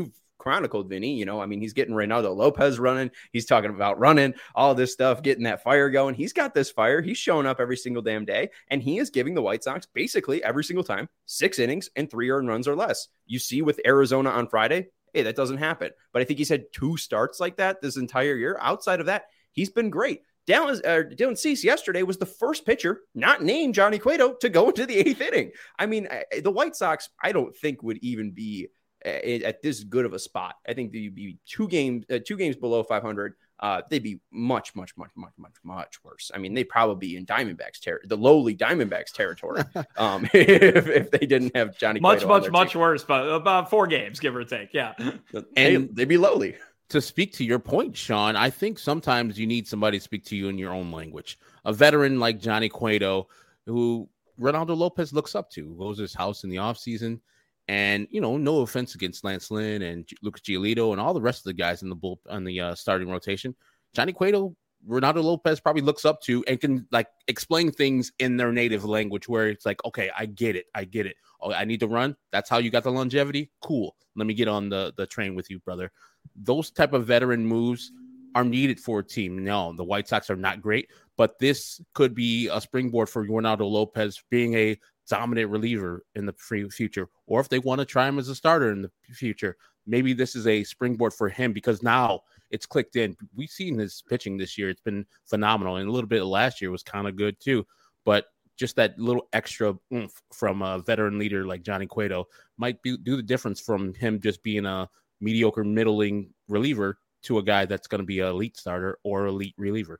chronicled, Vinny. You know, I mean, he's getting Reynaldo Lopez running. He's talking about running, all this stuff, getting that fire going. He's got this fire. He's showing up every single damn day, and he is giving the White Sox basically every single time six innings and three earned runs or less. You see with Arizona on Friday, hey, that doesn't happen. But I think he's had two starts like that this entire year. Outside of that, he's been great. Dylan, uh, Dylan Cease yesterday was the first pitcher, not named Johnny Cueto, to go into the eighth inning. I mean, I, the White Sox, I don't think would even be at, at this good of a spot. I think they'd be two games, uh, two games below five hundred. Uh, they'd be much, much, much, much, much, much worse. I mean, they'd probably be in Diamondbacks territory, the lowly Diamondbacks territory, um, if, if they didn't have Johnny much, Cueto much, much team. worse, but about four games, give or take. Yeah, and they, they'd be lowly. To speak to your point, Sean, I think sometimes you need somebody to speak to you in your own language. A veteran like Johnny Cueto, who Reynaldo Lopez looks up to, goes to his house in the offseason. And, you know, no offense against Lance Lynn and Lucas Giolito and all the rest of the guys in the bull on the uh, starting rotation. Johnny Cueto, Reynaldo Lopez probably looks up to and can, like, explain things in their native language where it's like, okay, I get it. I get it. Oh, I need to run. That's how you got the longevity. Cool. Let me get on the, the train with you, brother. Those type of veteran moves are needed for a team. No, the White Sox are not great, but this could be a springboard for Reynaldo Lopez being a dominant reliever in the future. Or if they want to try him as a starter in the future, maybe this is a springboard for him because now it's clicked in. We've seen his pitching this year. It's been phenomenal. And a little bit of last year was kind of good too. But just that little extra oomph from a veteran leader like Johnny Cueto might be, do the difference from him just being a mediocre middling reliever to a guy that's going to be an elite starter or elite reliever.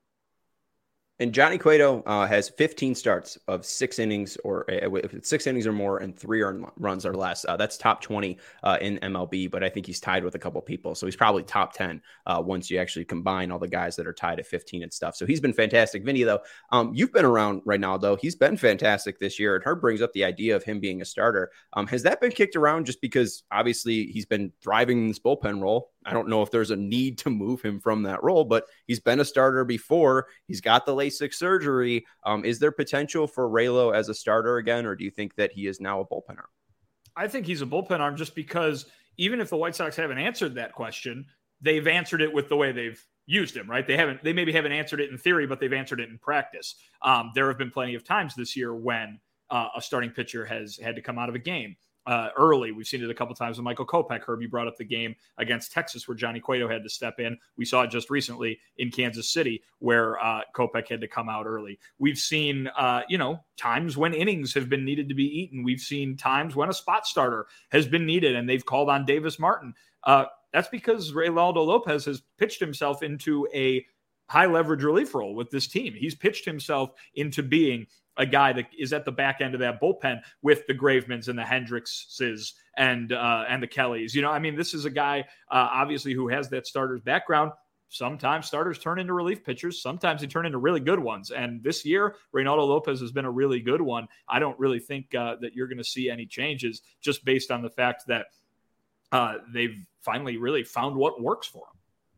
And Johnny Cueto uh, has fifteen starts of six innings or uh, six innings or more and three earned runs or less. Uh, that's top twenty uh, in M L B, but I think he's tied with a couple people. So he's probably top ten uh, once you actually combine all the guys that are tied at fifteen and stuff. So he's been fantastic. Vinny, though, um, you've been around Reynaldo. He's been fantastic this year. And Herb brings up the idea of him being a starter. Um, has that been kicked around just because obviously he's been thriving in this bullpen role? I don't know if there's a need to move him from that role, but he's been a starter before. He's got the LASIK surgery. Um, is there potential for Raylo as a starter again, or do you think that he is now a bullpen arm? I think he's a bullpen arm just because even if the White Sox haven't answered that question, they've answered it with the way they've used him, right? They haven't, they maybe haven't answered it in theory, but they've answered it in practice. Um, there have been plenty of times this year when uh, a starting pitcher has had to come out of a game Uh, early. We've seen it a couple times with Michael Kopech. Herbie brought up the game against Texas where Johnny Cueto had to step in. We saw it just recently in Kansas City where uh, Kopech had to come out early. We've seen, uh, you know, times when innings have been needed to be eaten. We've seen times when a spot starter has been needed and they've called on Davis Martin. Uh, that's because Reynaldo Lopez has pitched himself into a high leverage relief role with this team. He's pitched himself into being a guy that is at the back end of that bullpen with the Gravemans and the Hendrickses and uh, and the Kellys. You know, I mean, this is a guy, uh, obviously, who has that starter's background. Sometimes starters turn into relief pitchers. Sometimes they turn into really good ones. And this year, Reynaldo Lopez has been a really good one. I don't really think uh, that you're going to see any changes just based on the fact that uh, they've finally really found what works for him.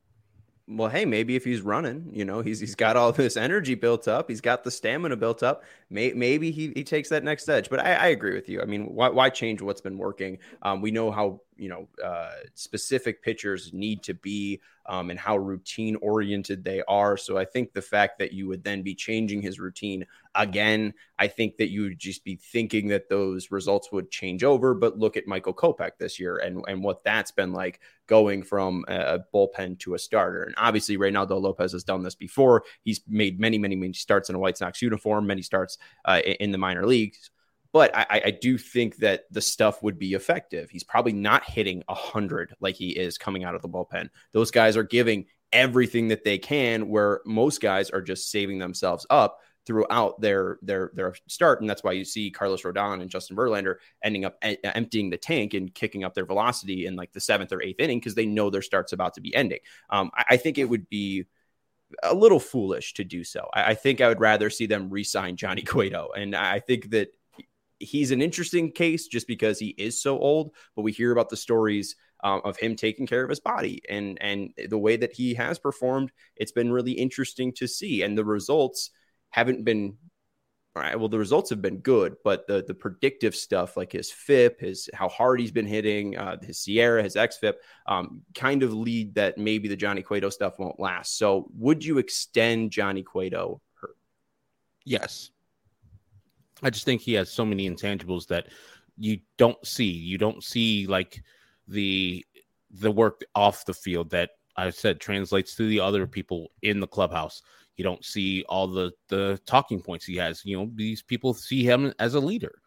Well, hey, maybe if he's running, you know, he's he's got all this energy built up. He's got the stamina built up. May, maybe he, he takes that next edge. But I, I agree with you. I mean, why, why change what's been working? Um, we know how, you know, uh, specific pitchers need to be um, and how routine oriented they are. So I think the fact that you would then be changing his routine again, I think that you would just be thinking that those results would change over. But look at Michael Kopech this year and, and what that's been like going from a bullpen to a starter. And obviously Reynaldo Lopez has done this before. He's made many, many, many starts in a White Sox uniform, many starts uh, in the minor leagues. But I, I do think that the stuff would be effective. He's probably not hitting one hundred like he is coming out of the bullpen. Those guys are giving everything that they can, where most guys are just saving themselves up throughout their their their start. And that's why you see Carlos Rodon and Justin Verlander ending up e- emptying the tank and kicking up their velocity in like the seventh or eighth inning because they know their start's about to be ending. Um, I, I think it would be a little foolish to do so. I, I think I would rather see them re-sign Johnny Cueto. And I think that he's an interesting case just because he is so old, but we hear about the stories um, of him taking care of his body and, and the way that he has performed. It's been really interesting to see. And the results haven't been all right, well, the results have been good, but the the predictive stuff like his F I P, his how hard he's been hitting, uh, his Sierra, his X F I P, um, kind of lead that maybe the Johnny Cueto stuff won't last. So would you extend Johnny Cueto hurt? Yes. I just think he has so many intangibles that you don't see. You don't see like the the work off the field that I said translates to the other people in the clubhouse. You don't see all the, the talking points he has. You know, these people see him as a leader.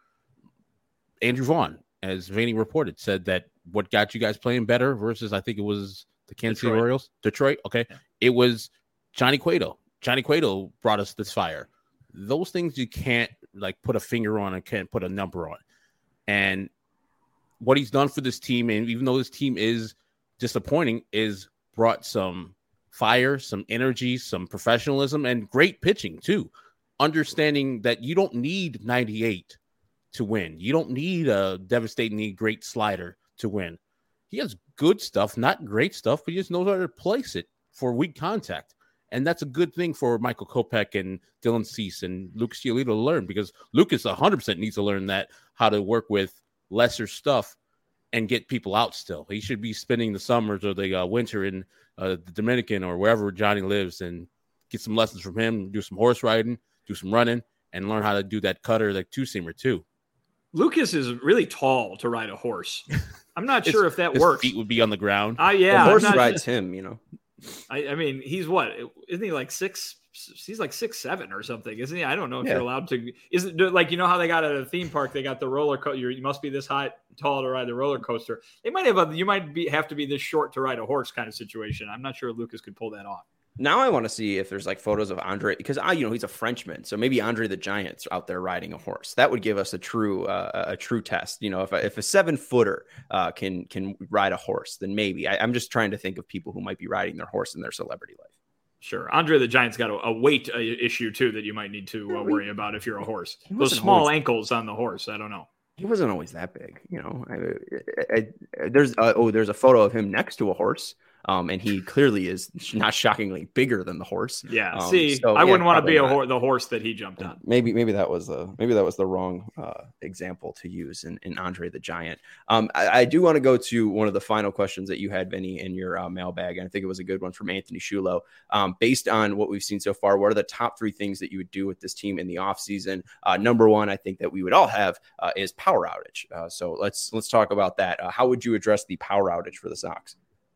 Andrew Vaughn, as Vanny reported, said that what got you guys playing better versus, I think it was the Kansas City Royals, Detroit. Okay. Yeah. It was Johnny Cueto. Johnny Cueto brought us this fire. Those things you can't like put a finger on and can't put a number on. And what he's done for this team, and even though this team is disappointing, is brought some fire, some energy, some professionalism, and great pitching too. Understanding that you don't need ninety-eight to win. You don't need a devastatingly great slider to win. He has good stuff, not great stuff, but he just knows how to place it for weak contact. And that's a good thing for Michael Kopech and Dylan Cease and Lucas Giolito to learn, because Lucas one hundred percent needs to learn that, how to work with lesser stuff and get people out still. He should be spending the summers or the uh, winter in uh, the Dominican or wherever Johnny lives and get some lessons from him, do some horse riding, do some running, and learn how to do that cutter, like two-seamer too. Lucas is really tall to ride a horse. I'm not sure if that his works. Feet would be on the ground. Uh, yeah, the horse rides sure. him, you know. I, I mean, he's what? Isn't he like six? He's like six, seven or something, isn't he? I don't know if yeah. you're allowed to. Isn't like, you know how they got at a theme park? They got the roller coaster. You must be this high, tall to ride the roller coaster. They might have a. You might be have to be this short to ride a horse kind of situation. I'm not sure Lucas could pull that off. Now I want to see if there's like photos of Andre, because I, you know, he's a Frenchman, so maybe Andre the Giant's out there riding a horse. That would give us a true, uh, a true test. You know, if a, if a seven footer uh, can can ride a horse, then maybe. I, I'm just trying to think of people who might be riding their horse in their celebrity life. Sure, Andre the Giant's got a, a weight uh, issue too that you might need to uh, worry about if you're a horse. Those small always, ankles on the horse, I don't know. He wasn't always that big, you know. I, I, I, there's uh, oh, there's a photo of him next to a horse. Um, and he clearly is not shockingly bigger than the horse. Yeah. Um, see, so, I yeah, wouldn't want to be a ho- the horse that he jumped on. Maybe, maybe that was the maybe that was the wrong uh, example to use in, in Andre the Giant. Um, I, I do want to go to one of the final questions that you had, Vinny, in your uh, mailbag, and I think it was a good one from Anthony Shulo. Um, based on what we've seen so far, what are the top three things that you would do with this team in the offseason? Uh, number one, I think that we would all have uh, is power outage. Uh, so let's let's talk about that. Uh, how would you address the power outage for the Sox?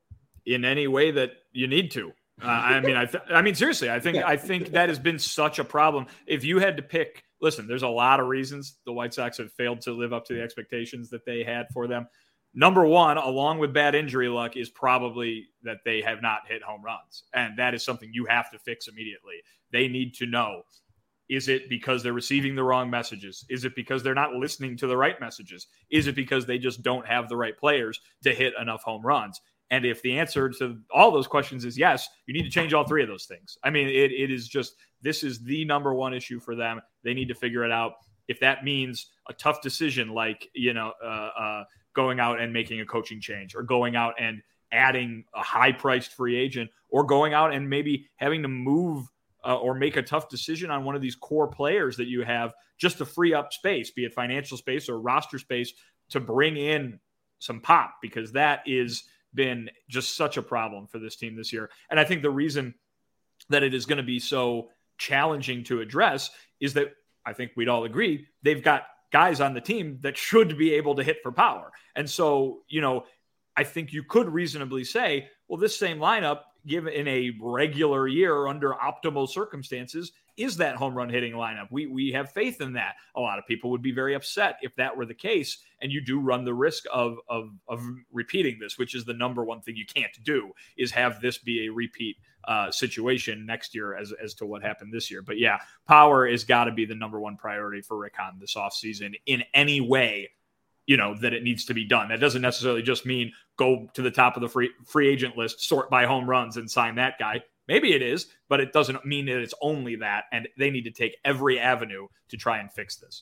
In any way that you need to. Uh, I mean, I, th- I mean, seriously, I think, yeah. I think that has been such a problem. If you had to pick, listen, there's a lot of reasons the White Sox have failed to live up to the expectations that they had for them. Number one, along with bad injury luck, is probably that they have not hit home runs. And that is something you have to fix immediately. They need to know, is it because they're receiving the wrong messages? Is it because they're not listening to the right messages? Is it because they just don't have the right players to hit enough home runs? And if the answer to all those questions is yes, you need to change all three of those things. I mean, it, it is just, this is the number one issue for them. They need to figure it out. If that means a tough decision, like, you know, uh, uh, going out and making a coaching change, or going out and adding a high priced free agent, or going out and maybe having to move uh, or make a tough decision on one of these core players that you have just to free up space, be it financial space or roster space, to bring in some pop, because that is been just such a problem for this team this year. And I think the reason that it is going to be so challenging to address is that I think we'd all agree they've got guys on the team that should be able to hit for power. And so, you know, I think you could reasonably say, well, this same lineup, given in a regular year under optimal circumstances, is that home run hitting lineup. We we have faith in that. A lot of people would be very upset if that were the case. And you do run the risk of, of, of repeating this, which is the number one thing you can't do, is have this be a repeat uh, situation next year as, as to what happened this year. But yeah, power has got to be the number one priority for Rick Hahn this offseason in any way, you know, that it needs to be done. That doesn't necessarily just mean go to the top of the free free agent list, sort by home runs and sign that guy. Maybe it is, but it doesn't mean that it's only that. And they need to take every avenue to try and fix this.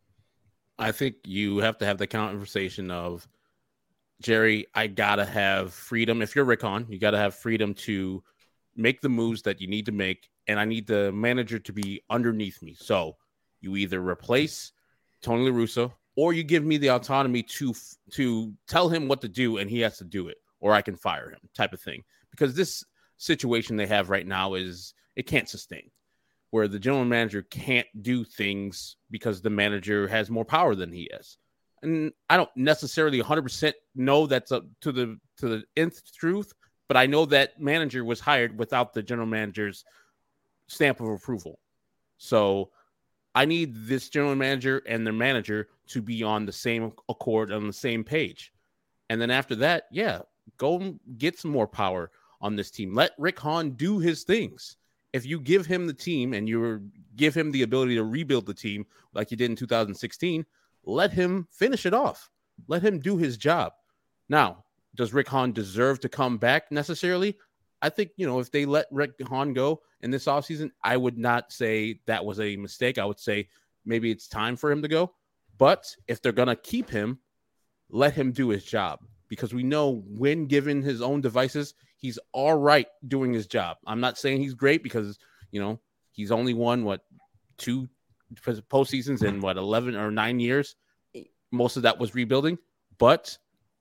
I think you have to have the conversation of, Jerry, I got to have freedom. If you're Rick Hahn, you got to have freedom to make the moves that you need to make. And I need the manager to be underneath me. So You either replace Tony La Russa or you give me the autonomy to to tell him what to do and he has to do it, or I can fire him, type of thing. Because this situation they have right now is it can't sustain, where the general manager can't do things because the manager has more power than he is. And I don't necessarily one hundred percent know that's up to the to the nth truth, but I know that manager was hired without the general manager's stamp of approval. So I need this general manager and their manager to be on the same accord, on the same page. And then after that, yeah, go get some more power on this team. Let Rick Hahn do his things. If you give him the team and you give him the ability to rebuild the team like you did in two thousand sixteen, let him finish it off. Let him do his job. Now, does Rick Hahn deserve to come back necessarily? I think, you know, if they let Rick Hahn go in this offseason, I would not say that was a mistake. I would say maybe it's time for him to go. But if they're going to keep him, let him do his job. Because we know when given his own devices, he's all right doing his job. I'm not saying he's great because, you know, he's only won, what, two postseasons in, what, eleven or nine years? Most of that was rebuilding. But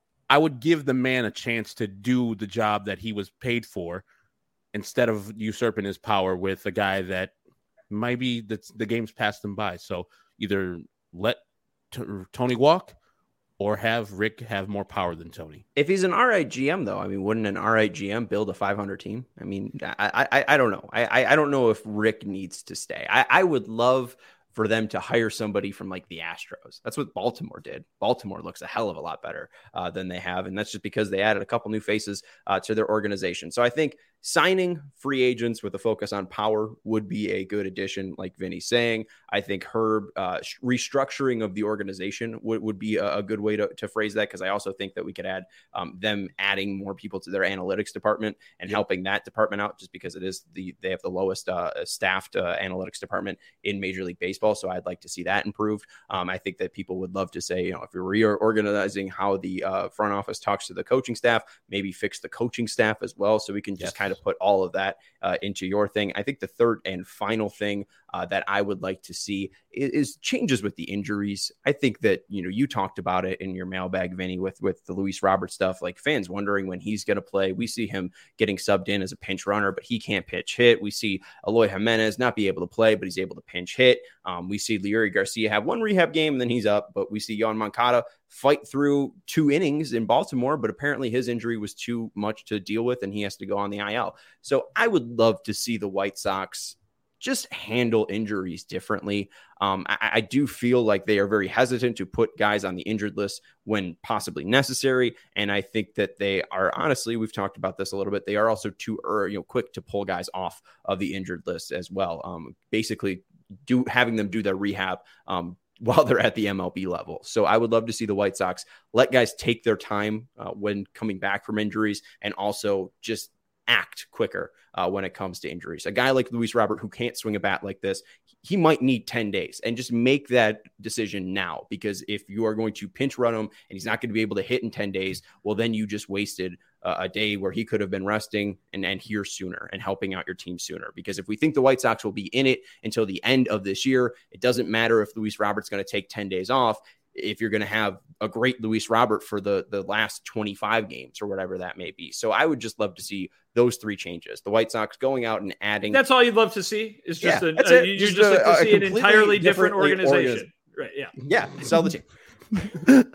I would give the man a chance to do the job that he was paid for instead of usurping his power with a guy that maybe the, the game's passed him by. So either let t- Tony walk or have Rick have more power than Tony. If he's an all right G M, though, I mean, wouldn't an all right G M build a five hundred team? I mean, I I, I don't know. I I don't know if Rick needs to stay. I, I would love for them to hire somebody from like the Astros. That's what Baltimore did. Baltimore looks a hell of a lot better uh, than they have. And that's just because they added a couple new faces uh, to their organization. So I think signing free agents with a focus on power would be a good addition, like Vinny's saying. I think Herb uh, restructuring of the organization would, would be a, a good way to, to phrase that, because I also think that we could add um, them adding more people to their analytics department and helping that department out, just because it is the they have the lowest uh, staffed uh, analytics department in Major League Baseball. So I'd like to see that improved. Um, I think that people would love to say, you know, if you're reorganizing how the uh, front office talks to the coaching staff, maybe fix the coaching staff as well, so we can just yes. kind of put all of that uh, into your thing. I think the third and final thing uh, that I would like to see is, is changes with the injuries. I think that, you know, you talked about it in your mailbag, Vinny, with, with the Luis Robert stuff, like fans wondering when he's going to play. We see him getting subbed in as a pinch runner, but he can't pitch hit. We see Eloy Jimenez not be able to play, but he's able to pinch hit. Um, we see Leury Garcia have one rehab game and then he's up, but we see Yoán Moncada fight through two innings in Baltimore, but apparently his injury was too much to deal with and he has to go on the I L. So I would love to see the White Sox just handle injuries differently. Um, I, I do feel like they are very hesitant to put guys on the injured list when possibly necessary. And I think that they are, honestly, we've talked about this a little bit, they are also too early, you know, quick to pull guys off of the injured list as well. Um, basically do having them do their rehab um, while they're at the M L B level. So I would love to see the White Sox let guys take their time uh, when coming back from injuries, and also just act quicker uh, when it comes to injuries. A guy like Luis Robert, who can't swing a bat like this, he might need ten days, and just make that decision now, because if you are going to pinch run him and he's not going to be able to hit in ten days, well, then you just wasted uh, a day where he could have been resting and, and here sooner and helping out your team sooner. Because if we think the White Sox will be in it until the end of this year, it doesn't matter if Luis Robert's going to take ten days off. If you're going to have a great Luis Robert for the, the last twenty-five games or whatever that may be. So I would just love to see those three changes. The White Sox going out and adding. That's all you'd love to see, is just yeah, a, a you just, just like to see an entirely different organization. Organiz- right. Yeah. Yeah. Sell the team.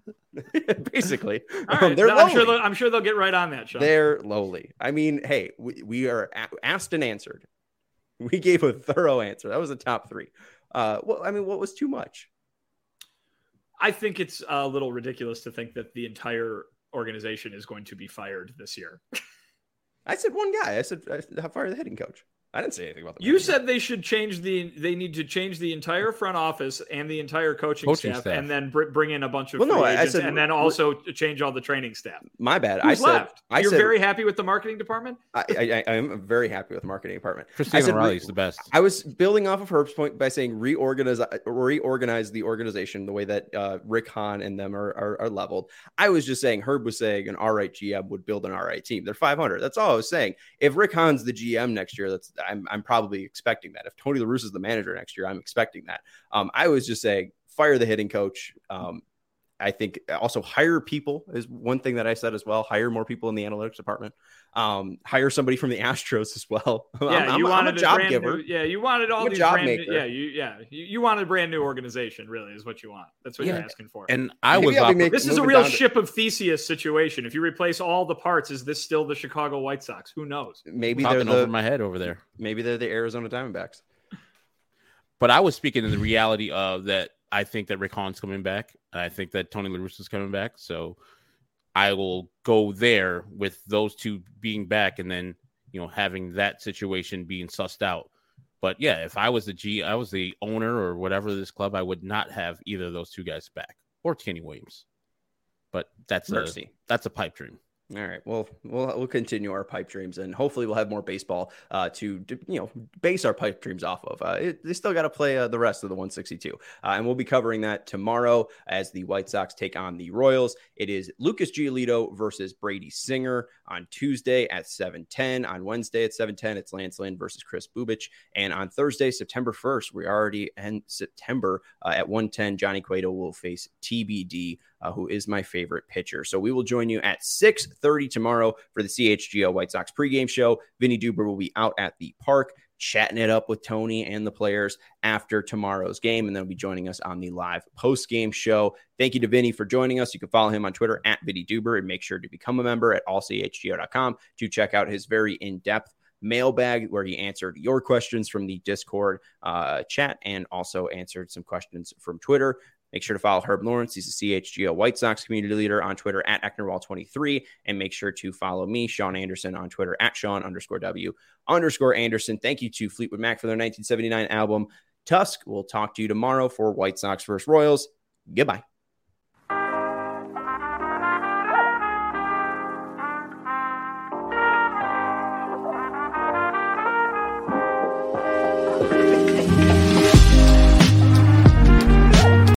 Basically. All right. um, they're no, I'm sure I'm sure they'll get right on that, Sean. They're lowly. I mean, hey, we, we are a- asked and answered. We gave a thorough answer. That was a top three. Uh, well, I mean, what was too much? I think it's a little ridiculous to think that the entire organization is going to be fired this year. I said one guy. I said, how far the hitting coach? I didn't say anything about the You said they should change the, they need to change the entire front office and the entire coaching, coaching staff, staff, and then br- bring in a bunch of well, no, agents, I said, and then also change all the training staff. My bad. Who's I said, left? I You're said, very happy with the marketing department? I, I, I am very happy with the marketing department. Christina Riley's the best. I was building off of Herb's point by saying reorganize, reorganize the organization the way that uh, Rick Hahn and them are, are, are leveled. I was just saying Herb was saying an all right G M would build an all right team. They're five hundred. That's all I was saying. If Rick Hahn's the G M next year, that's I'm, I'm probably expecting that. If Tony La Russa is the manager next year, I'm expecting that. Um, I was just saying, fire the hitting coach. Um, I think also hire people is one thing that I said as well. Hire more people in the analytics department. Um, hire somebody from the Astros as well. Yeah, I'm, you I'm, wanted I'm a job brand giver. New, yeah, you wanted all I'm a these job brand maker. New, yeah, you yeah you, you wanted a brand new organization. Really, is what you want. That's what Yeah. you're asking for. And I Maybe was I'll be oper- making- This is a moving real down to- ship of Theseus situation. If you replace all the parts, is this still the Chicago White Sox? Who knows? Maybe they're talking the over my head over there. maybe they're the Arizona Diamondbacks. But I was speaking in the reality of that. I think that Rick Hahn's coming back. And I think that Tony La Russa is coming back. So I will go there with those two being back, and then you know having that situation being sussed out. But yeah, if I was the G, I was the owner or whatever of this club, I would not have either of those two guys back or Kenny Williams. But that's Mercy. a that's a pipe dream. All right. Well, we'll we'll continue our pipe dreams, and hopefully we'll have more baseball uh, to you know base our pipe dreams off of. Uh, it, they still got to play uh, the rest of the one sixty-two, uh, and we'll be covering that tomorrow as the White Sox take on the Royals. It is Lucas Giolito versus Brady Singer on Tuesday at seven ten. On Wednesday at seven ten, it's Lance Lynn versus Chris Bubich, and on Thursday, September first, we already end September uh, at one ten. Johnny Cueto will face T B D. Uh, who is my favorite pitcher. So we will join you at six thirty tomorrow for the C H G O White Sox pregame show. Vinny Duber will be out at the park chatting it up with Tony and the players after tomorrow's game, and then he'll be joining us on the live post-game show. Thank you to Vinny for joining us. You can follow him on Twitter at Vinny Duber, and make sure to become a member at all c h g o dot com to check out his very in-depth mailbag where he answered your questions from the Discord uh, chat and also answered some questions from Twitter. Make sure to follow Herb Lawrence. He's a C H G O White Sox community leader on Twitter at Ecknerwall twenty-three. And make sure to follow me, Sean Anderson, on Twitter at Sean underscore W underscore Anderson. Thank you to Fleetwood Mac for their nineteen seventy-nine album, Tusk. We'll talk to you tomorrow for White Sox versus Royals. Goodbye.